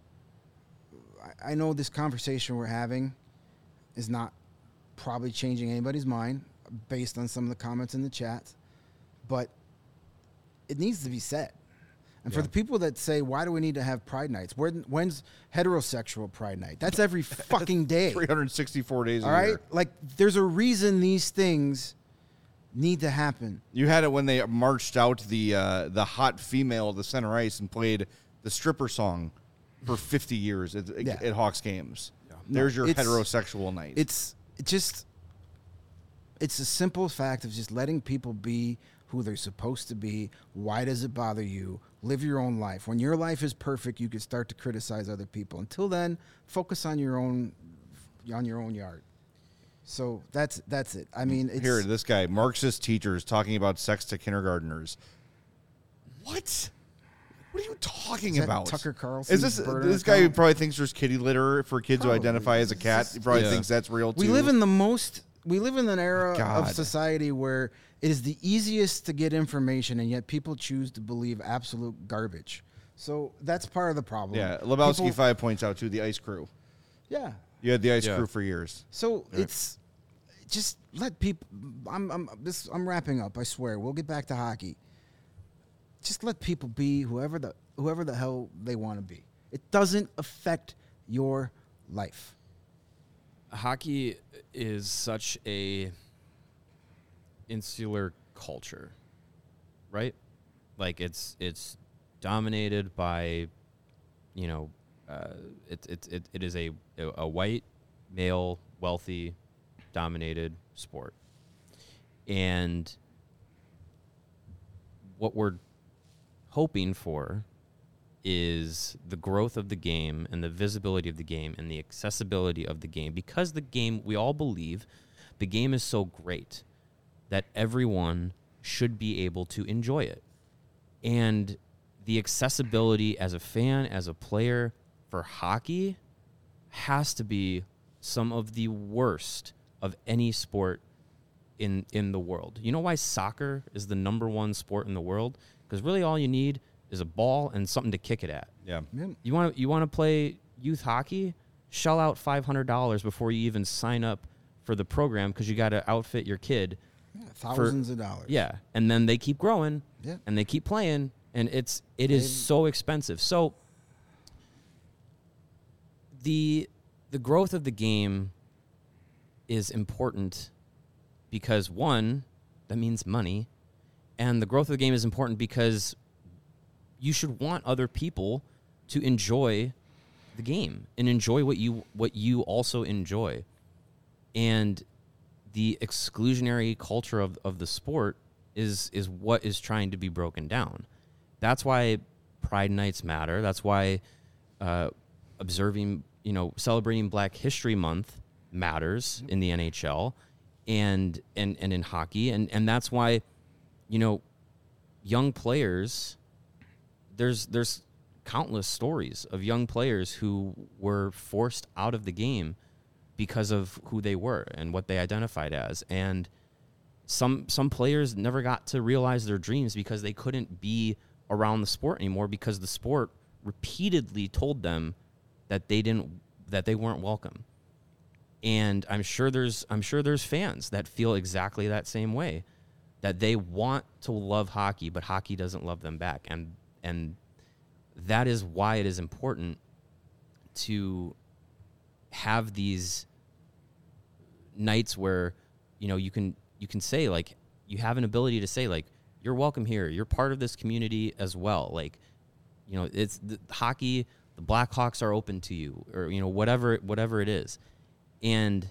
I, I know this conversation we're having is not probably changing anybody's mind based on some of the comments in the chat, but it needs to be said. And for Yeah. the people that say, why do we need to have Pride Nights? When, when's heterosexual Pride Night? That's every fucking day. three hundred sixty-four days All a right? year. Like, there's a reason these things need to happen. You had it when they marched out the uh, the hot female of the center ice and played the stripper song for fifty years at, Yeah. at Hawks games. There's your it's- heterosexual night. It's it just it's a simple fact of just letting people be who they're supposed to be. Why does it bother you? Live your own life. When your life is perfect, you can start to criticize other people. Until then, focus on your own on your own yard. So that's that's it. I mean, it's, Here, this guy, Marxist teachers talking about sex to kindergartners. What? What are you talking Is that about? Tucker Carlson's Is this burner this guy who account? probably thinks the's kitty litter for kids Probably. who identify as a cat? He probably Yeah. thinks that's real too. we live in the most we live in an era God. of society where it is the easiest to get information, and yet people choose to believe absolute garbage. So that's part of the problem. Yeah, Lebowski People- five points out too. The Ice Crew. Yeah. You had the Ice Yeah. Crew for years. So it's just let people. I'm I'm this. I'm wrapping up. I swear. We'll get back to hockey. Just let people be whoever the whoever the hell they want to be. It doesn't affect your life. Hockey is such a insular culture, right? Like it's it's dominated by, you know, uh, it, it it it is a a white male wealthy dominated sport, and what we're hoping for is the growth of the game and the visibility of the game and the accessibility of the game, because the game, we all believe the game is so great that everyone should be able to enjoy it. And the accessibility as a fan, as a player for hockey has to be some of the worst of any sport in in the world. You know why soccer is the number one sport in the world? Because really all you need is a ball and something to kick it at. Yeah. You want to you want to play youth hockey? Shell out five hundred dollars before you even sign up for the program, because you got to outfit your kid. Yeah, thousands of dollars. Yeah, and then they keep growing, Yeah. and they keep playing, and it's it is They've- so expensive. So the the growth of the game is important because, one, that means money, and the growth of the game is important because you should want other people to enjoy the game and enjoy what you what you also enjoy. And the exclusionary culture of, of the sport is is what is trying to be broken down. That's why Pride Nights matter. That's why uh, observing, you know, celebrating Black History Month matters in the N H L and and, and in hockey. And, and that's why, you know, young players, there's there's countless stories of young players who were forced out of the game because of who they were and what they identified as. And some some players never got to realize their dreams because they couldn't be around the sport anymore, because the sport repeatedly told them that they didn't that they weren't welcome. And I'm sure there's I'm sure there's fans that feel exactly that same way, that they want to love hockey, but hockey doesn't love them back. And and that is why it is important to have these nights where, you know, you can you can say, like, you have an ability to say, like, you're welcome here. You're part of this community as well. Like, you know, it's the hockey, the Blackhawks are open to you, or, you know, whatever whatever it is. And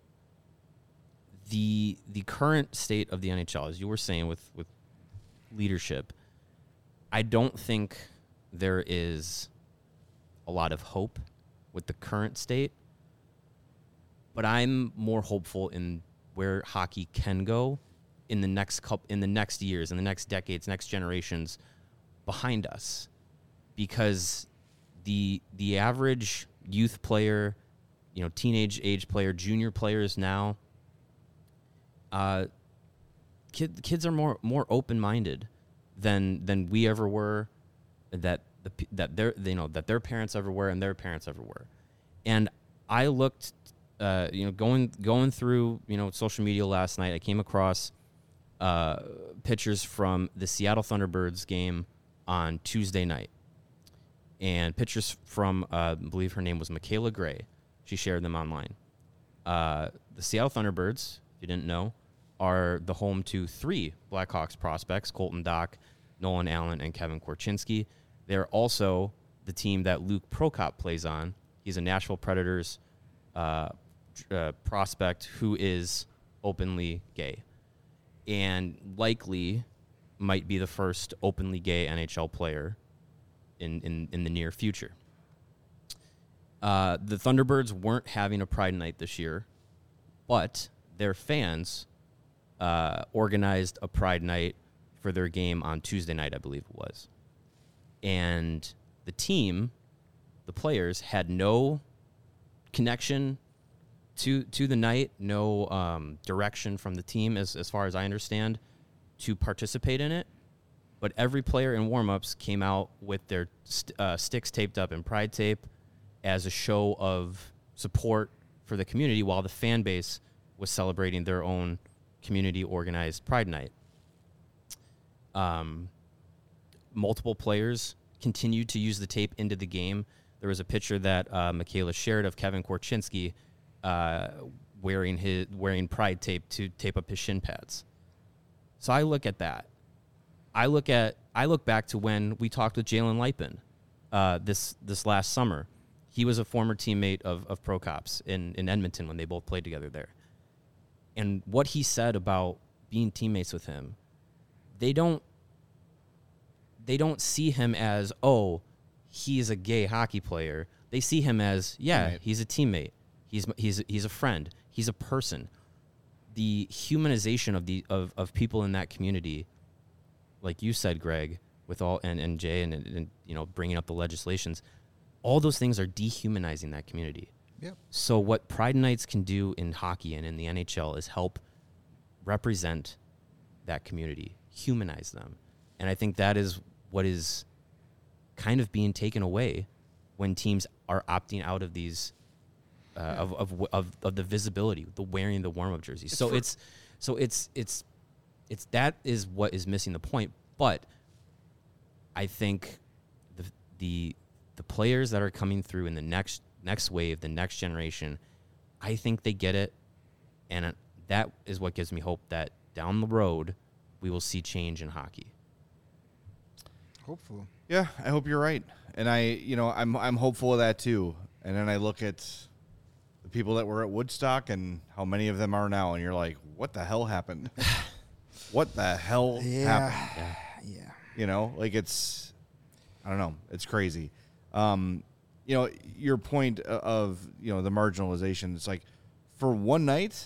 the the current state of the N H L, as you were saying, with with leadership, I don't think there is a lot of hope with the current state, but I'm more hopeful in where hockey can go in the next couple, in the next years, in the next decades, next generations behind us, because the the average youth player, you know, teenage age player, junior players now, uh, kid, kids are more more open minded than than we ever were, that the that their you know that their parents ever were, and their parents ever were. And I looked, uh, you know, going going through you know social media last night, I came across uh, pictures from the Seattle Thunderbirds game on Tuesday night, and pictures from uh, I believe her name was Michaela Gray. She shared them online. Uh, the Seattle Thunderbirds, if you didn't know, are the home to three Blackhawks prospects: Colton Dach, Nolan Allen, and Kevin Korchinski. They're also the team that Luke Prokop plays on. He's a Nashville Predators uh, uh, prospect who is openly gay, and likely might be the first openly gay N H L player in, in, in the near future. Uh, the Thunderbirds weren't having a Pride Night this year, but their fans uh, organized a Pride Night for their game on Tuesday night, I believe it was. And the team, the players, had no connection to to the night, no um, direction from the team, as as far as I understand, to participate in it. But every player in warmups came out with their st- uh, sticks taped up in pride tape as a show of support for the community, while the fan base was celebrating their own community organized Pride Night. Um, multiple players continued to use the tape into the game. There was a picture that uh, Michaela shared of Kevin Korchinski uh, wearing his wearing Pride tape to tape up his shin pads. So I look at that. I look at I look back to when we talked with Jalen Lipin uh, this this last summer. He was a former teammate of of Pro Cops in, in Edmonton when they both played together there. And what he said about being teammates with him, they don't they don't see him as, oh, he's a gay hockey player. They see him as, yeah, Right. he's a teammate. He's he's he's a friend. He's a person. The humanization of the of, of people in that community, like you said, Greg, with all and, and Jay and, and you know bringing up the legislations, all those things are dehumanizing that community. Yep. So what Pride Nights can do in hockey and in the N H L is help represent that community, humanize them. And I think that is what is kind of being taken away when teams are opting out of these uh, of, of of of the visibility, the wearing the warm-up jerseys. It's so for- it's so it's it's it's that is what is missing the point. But I think the the the players that are coming through in the next next wave, the next generation, I think they get it, and uh, that is what gives me hope that down the road we will see change in hockey. Hopefully. Yeah, I hope you're right. And I, you know, I'm I'm hopeful of that too. And then I look at the people that were at Woodstock and how many of them are now, and you're like, what the hell happened? What the hell Yeah. happened? Yeah. You know, like it's, I don't know, it's crazy. Um, you know, your point of, you know, the marginalization, it's like for one night,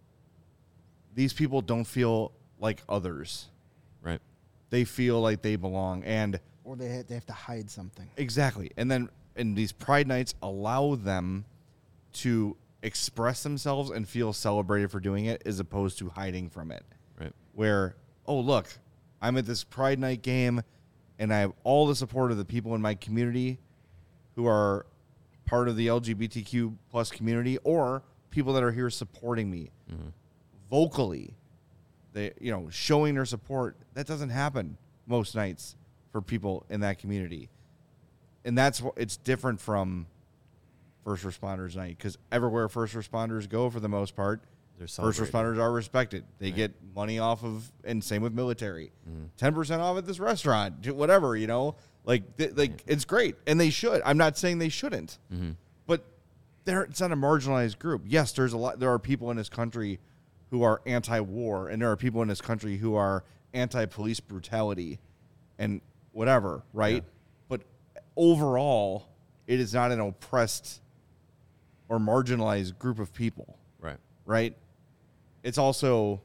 these people don't feel like others. Right. They feel like they belong. And Or they have, they have to hide something. exactly. And then and these Pride Nights allow them to express themselves and feel celebrated for doing it as opposed to hiding from it. Right. Where, oh, look, I'm at this Pride Night game and I have all the support of the people in my community who are part of the L G B T Q plus community or people that are here supporting me Mm-hmm. vocally. They, you know, showing their support. That doesn't happen most nights for people in that community. And that's what it's different from first responders night because everywhere first responders go, for the most part, They're first celebrated. responders are respected. They Right. get money off of, and same with military, Mm-hmm. ten percent off at this restaurant, whatever, you know, like, th- like it's great. And they should, I'm not saying they shouldn't, Mm-hmm. but they're, it's not a marginalized group. Yes, there's a lot, there are people in this country who are anti-war, and there are people in this country who are anti-police brutality and whatever, right? Yeah. But overall, it is not an oppressed or marginalized group of people, Right. right? It's also,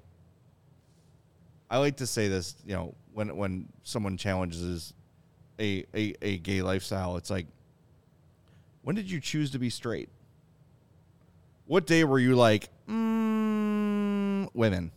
I like to say this, you know, when when someone challenges a, a, a gay lifestyle, it's like, when did you choose to be straight? What day were you like, mm, women,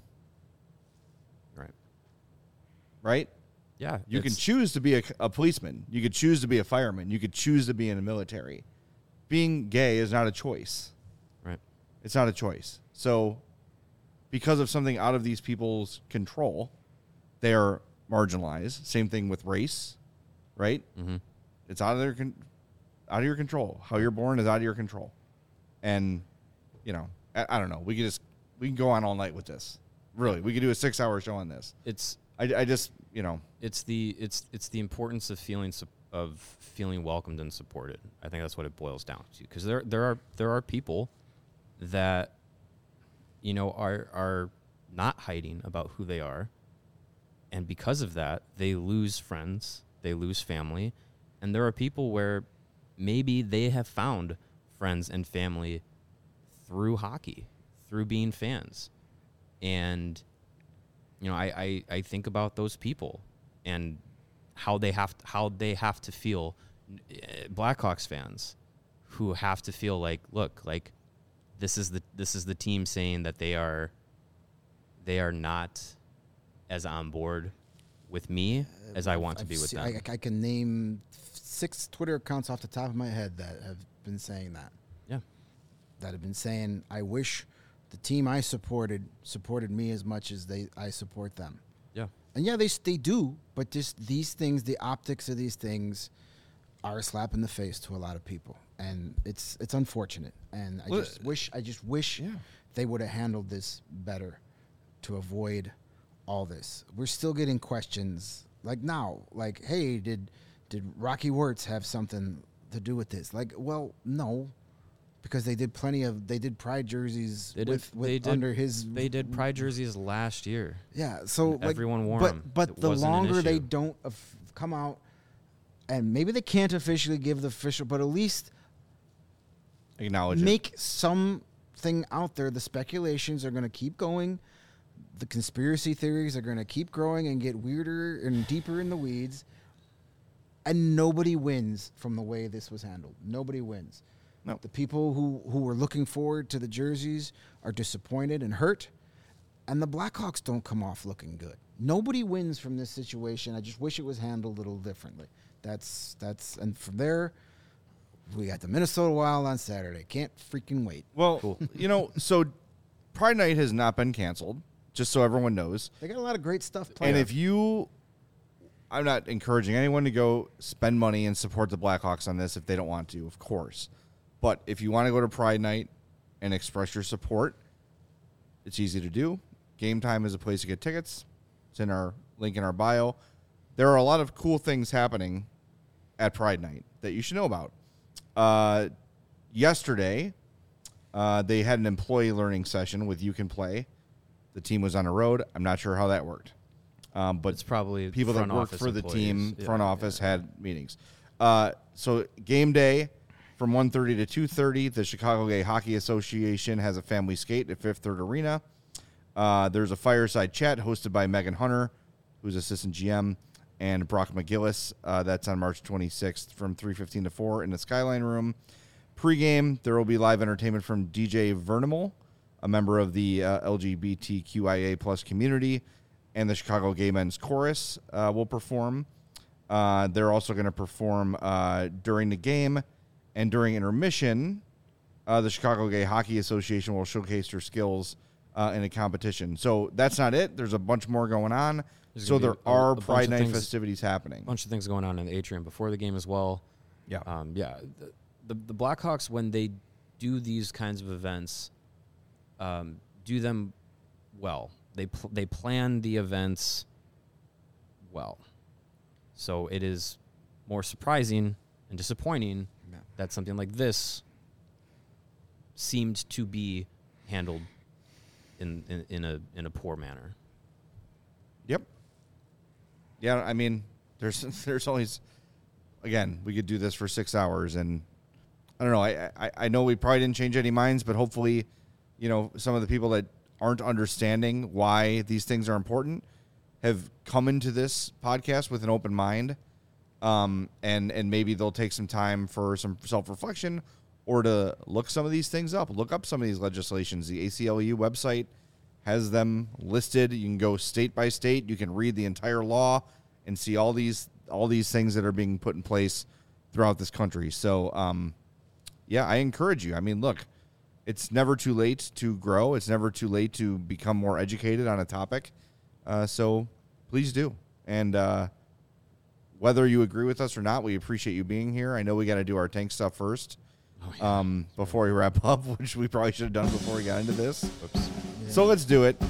Right. right? Yeah. You can it's- choose to be a, a policeman. You could choose to be a fireman. You could choose to be in the military. Being gay is not a choice. Right. It's not a choice. So because of something out of these people's control, they are marginalized. Same thing with race, right? Mm-hmm. It's out of their con- out of your control. How you're born is out of your control. And, you know, I, I don't know. We could just, we can go on all night with this. Really. We could do a six hour show on this. It's I, I just, you know, it's the it's it's the importance of feeling sup- of feeling welcomed and supported. I think that's what it boils down to. Because there there are there are people that, you know, are are not hiding about who they are, and because of that, they lose friends, they lose family, and there are people where maybe they have found friends and family through hockey, through being fans, and you know, I, I, I think about those people and how they have to, how they have to feel, uh, Blackhawks fans who have to feel like, look, like this is the this is the team saying that they are they are not as on board with me as I want to I've be with se- them. I, I can name six Twitter accounts off the top of my head that have been saying that. Yeah. That have been saying, I wish the team I supported supported me as much as they I support them. Yeah. And yeah, they s- they do, but just these things, the optics of these things, are a slap in the face to a lot of people, and it's it's unfortunate. And I Well, just wish I just wish yeah. they would have handled this better to avoid all this. We're still getting questions like now, like, hey, did did Rocky Wirtz have something to do with this? Like, well, no, because they did plenty of they did pride jerseys They did, with, with they did, under his They did pride jerseys last year. yeah. So And like, everyone wore but 'em. but It the wasn't an longer they issue. don't of- come out, and maybe they can't officially give the official, but at least Acknowledge it. make something out there. The speculations are going to keep going. The conspiracy theories are going to keep growing and get weirder and deeper in the weeds. And nobody wins from the way this was handled. Nobody wins. No. The people who, who were looking forward to the jerseys are disappointed and hurt. And the Blackhawks don't come off looking good. Nobody wins from this situation. I just wish it was handled a little differently. That's that's and from there, we got the Minnesota Wild on Saturday. Can't freaking wait. Well, you know, so Pride Night has not been canceled, just so everyone knows. They got a lot of great stuff planned. And if you, I'm not encouraging anyone to go spend money and support the Blackhawks on this if they don't want to, of course. But if you want to go to Pride Night and express your support, it's easy to do. Game Time is a place to get tickets. It's in our link in our bio. There are a lot of cool things happening at Pride Night that you should know about. Uh, yesterday, uh, they had an employee learning session with You Can Play. The team was on the road. I'm not sure how that worked. Um, but It's probably people that front work office for the employees. team, Yeah, front yeah, office, yeah. had meetings. Uh, so game day from one thirty to two thirty, the Chicago Gay Hockey Association has a family skate at Fifth Third Arena. Uh, there's a fireside chat hosted by Megan Hunter, who's assistant G M, and Brock McGillis. Uh, that's on March twenty-sixth from three fifteen to four in the Skyline Room. Pre-game, there will be live entertainment from D J Vernimal, a member of the uh, L G B T Q I A plus community, and the Chicago Gay Men's Chorus uh, will perform. Uh, they're also going to perform uh, during the game, and during intermission, uh, the Chicago Gay Hockey Association will showcase their skills uh, in a competition. So that's not it. There's a bunch more going on. There's So gonna there be a- are a bunch Pride of Night things- festivities happening. A bunch of things going on in the atrium before the game as well. Yeah. Um, yeah. The, the the Blackhawks, when they do these kinds of events, um, do them well. They pl- they plan the events well. So it is more surprising and disappointing Yeah. that something like this seemed to be handled in, in, in a in a poor manner. Yep. Yeah, I mean, there's there's always, again, we could do this for six hours, and I don't know. I, I I know we probably didn't change any minds, but hopefully, you know, some of the people that aren't understanding why these things are important have come into this podcast with an open mind, um, and and maybe they'll take some time for some self-reflection or to look some of these things up, look up some of these legislations. The A C L U website has them listed. You can go state by state. You can read the entire law and see all these all these things that are being put in place throughout this country. So, um, yeah, I encourage you. I mean, look, it's never too late to grow. It's never too late to become more educated on a topic. Uh, so please do. And uh, whether you agree with us or not, we appreciate you being here. I know we got to do our tank stuff first Oh, yeah. um, before we wrap up, which we probably should have done before we got into this. Whoops. So let's do it.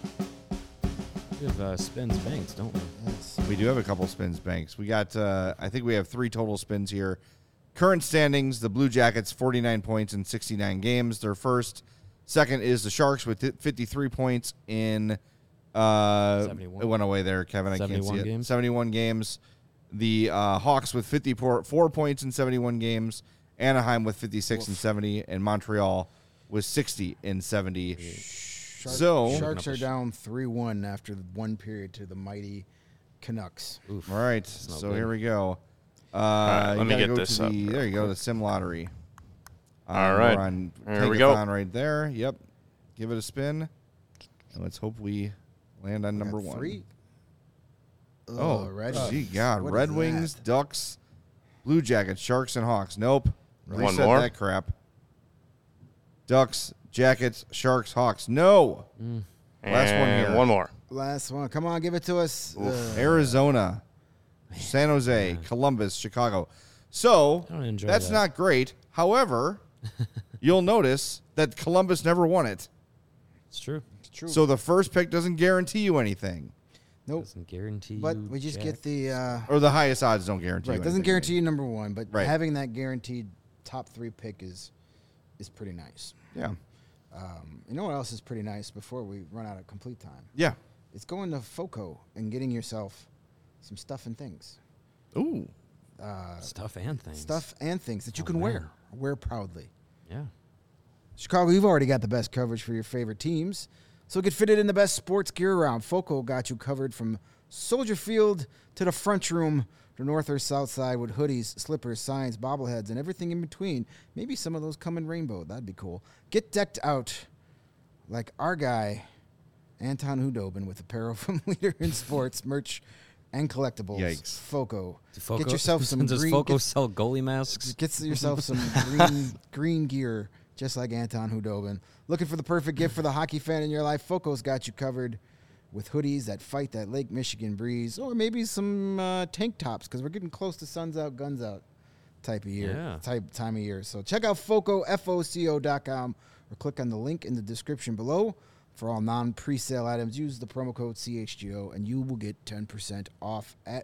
We have uh, spins banks, don't we? Yes. We do have a couple spins banks. We got, uh, I think we have three total spins here. Current standings, the Blue Jackets, forty-nine points in sixty-nine games. They're first. Second is the Sharks with fifty-three points in, uh, seventy-one. it went away there, Kevin. I can't see seventy-one it. games. seventy-one games. The uh, Hawks with fifty-four four points in seventy-one games. Anaheim with fifty-six and seventy. And Montreal with sixty and seventy. Shark, So- Sharks are down three one after the one period to the mighty Canucks. Oof. All right, not so good. here we go. Uh, right, you let me gotta get go this to up the, real there you go, the Sim Lottery. All Um, right. We're on Here we go. Tankathon right there. Yep. Give it a spin. And let's hope we land on We number got one. Three. Oh, Red gee, Wings. God. What Red is Wings, that? Ducks, Blue Jackets, Sharks, and Hawks. Nope. One Reset more? that crap. Ducks, Jackets, Sharks, Hawks. No. Last one And here. One more. Last one. Come on, give it to us. Uh, Arizona, San Jose, Columbus, Chicago. So I don't enjoy that's that. not great. However, you'll notice that Columbus never won it. It's true. it's true. So the first pick doesn't guarantee you anything. nope. Doesn't guarantee But you we just jack. get the uh, Or the highest odds don't guarantee right. you Doesn't anything. guarantee you number one, but Right. having that guaranteed top three pick is is pretty nice. Yeah. Um, you know what else is pretty nice before we run out of complete time? Yeah. It's going to FOCO and getting yourself some stuff and things. Ooh. Uh, stuff and things. stuff and things that you Oh, can man. wear. Wear proudly. Yeah. Chicago, you've already got the best coverage for your favorite teams, so get fitted in the best sports gear around. FOCO got you covered from Soldier Field to the front room, to north or south side with hoodies, slippers, signs, bobbleheads, and everything in between. Maybe some of those come in rainbow. That'd be cool. Get decked out like our guy, Anton Hudobin, with apparel from Leader in Sports, merch, and collectibles. Yikes. FOCO. Foco, Get yourself some Does green. Foco get- sell goalie masks? Get yourself some green green gear, just like Anton Hudobin. Looking for the perfect gift for the hockey fan in your life? FOCO's got you covered with hoodies that fight that Lake Michigan breeze, or maybe some uh, tank tops, because we're getting close to suns out, guns out type of year, Yeah. type time of year. So check out FOCO, F O C O dot com, or click on the link in the description below. For all non-presale items, use the promo code C H G O, and you will get ten percent off at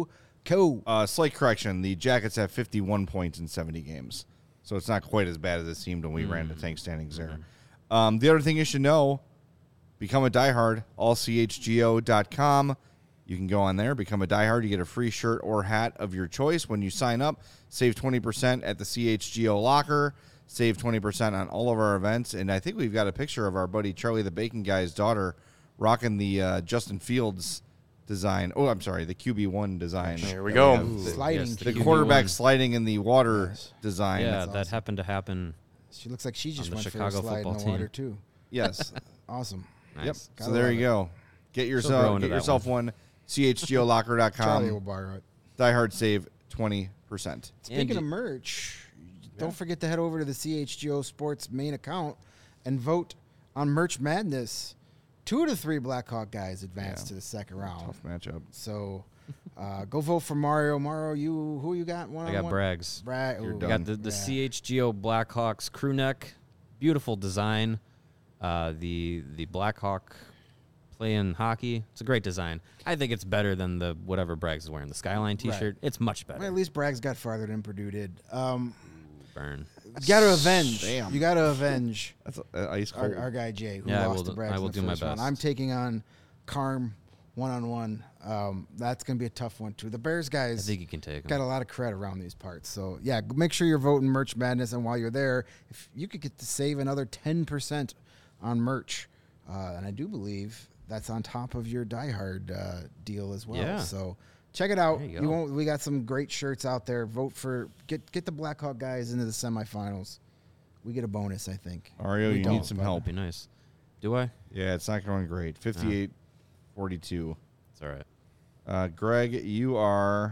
FOCO. Uh, slight correction. The Jackets have fifty-one points in seventy games. So it's not quite as bad as it seemed when we ran the tank standings there. Um, the other thing you should know, become a diehard, all C H G O dot com. You can go on there, become a diehard. You get a free shirt or hat of your choice when you sign up. Save twenty percent at the C H G O locker. Save twenty percent on all of our events. And I think we've got a picture of our buddy Charlie the Bacon Guy's daughter rocking the uh, Justin Fields design. Oh, I'm sorry, the Q B one design. There we that go. have. Ooh, The, Sliding yes, to the Q B quarterback one. sliding in the water Yes. design. Yeah, That's that awesome. happened to happen. She looks like she just the went Chicago for a slide in football the team. water, too. Yes. Awesome. Nice. Yep. Gotta So there love you it. go. Get grow yourself into get that yourself one. C H G O locker dot Charlie will com. borrow it. Diehard save twenty percent. Speaking And of you- merch, don't forget to head over to the C H G O Sports main account and vote on Merch Madness. Two of the three Blackhawk guys advanced Yeah. to the second round. Tough matchup. So uh, go vote for Mario. Mario, you who you got? One I on got one? Braggs. Bragg. You're ooh, I done. got the, the yeah. C H G O Blackhawks crew neck. Beautiful design. Uh, the the Blackhawk playing hockey. It's a great design. I think it's better than the whatever Braggs is wearing. The Skyline T-shirt. It's much better. Well, at least Bragg's got farther than Purdue did. Um, Burn. you got to avenge. Damn. You got to avenge That's uh, ice cold. our, our guy Jay, who Yeah, I lost will to do- Braggs I will in the do my first round. best. I'm taking on Carm one on one. Um, that's going to be a tough one too. The Bears I guys think you can take got them. a lot of credit around these parts. So yeah, g- make sure you're voting Merch Madness, and while you're there, if you could get to save another ten percent on merch, uh, and I do believe that's on top of your Die Hard uh, deal as well. Yeah. So check it out. There you We go. won't. We got some great shirts out there. Vote for get get the Blackhawk guys into the semifinals. We get a bonus, I think. Mario, We you don't, need some but- help. That'd be nice. Do I? Yeah, it's not going great. fifty-eight forty-two. It's all right. Uh, Greg, you are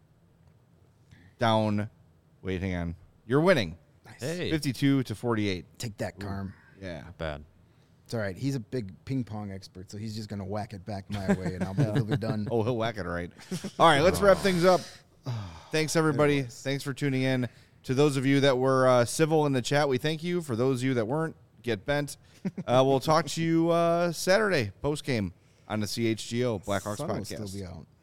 down. Wait, hang on. You're winning. Nice. Hey, fifty-two to forty-eight. Take that, Carm. Yeah. not bad. It's all right. He's a big ping pong expert, so he's just gonna whack it back my way, and I'll be, he'll be done. Oh, he'll whack it right. All right, let's wrap things up. Thanks, everybody. Thanks for tuning in. To those of you that were uh, civil in the chat, we thank you. For those of you that weren't, get bent. Uh, we'll talk to you uh, Saturday post game on the C H G O Blackhawks Sun will podcast. still be out.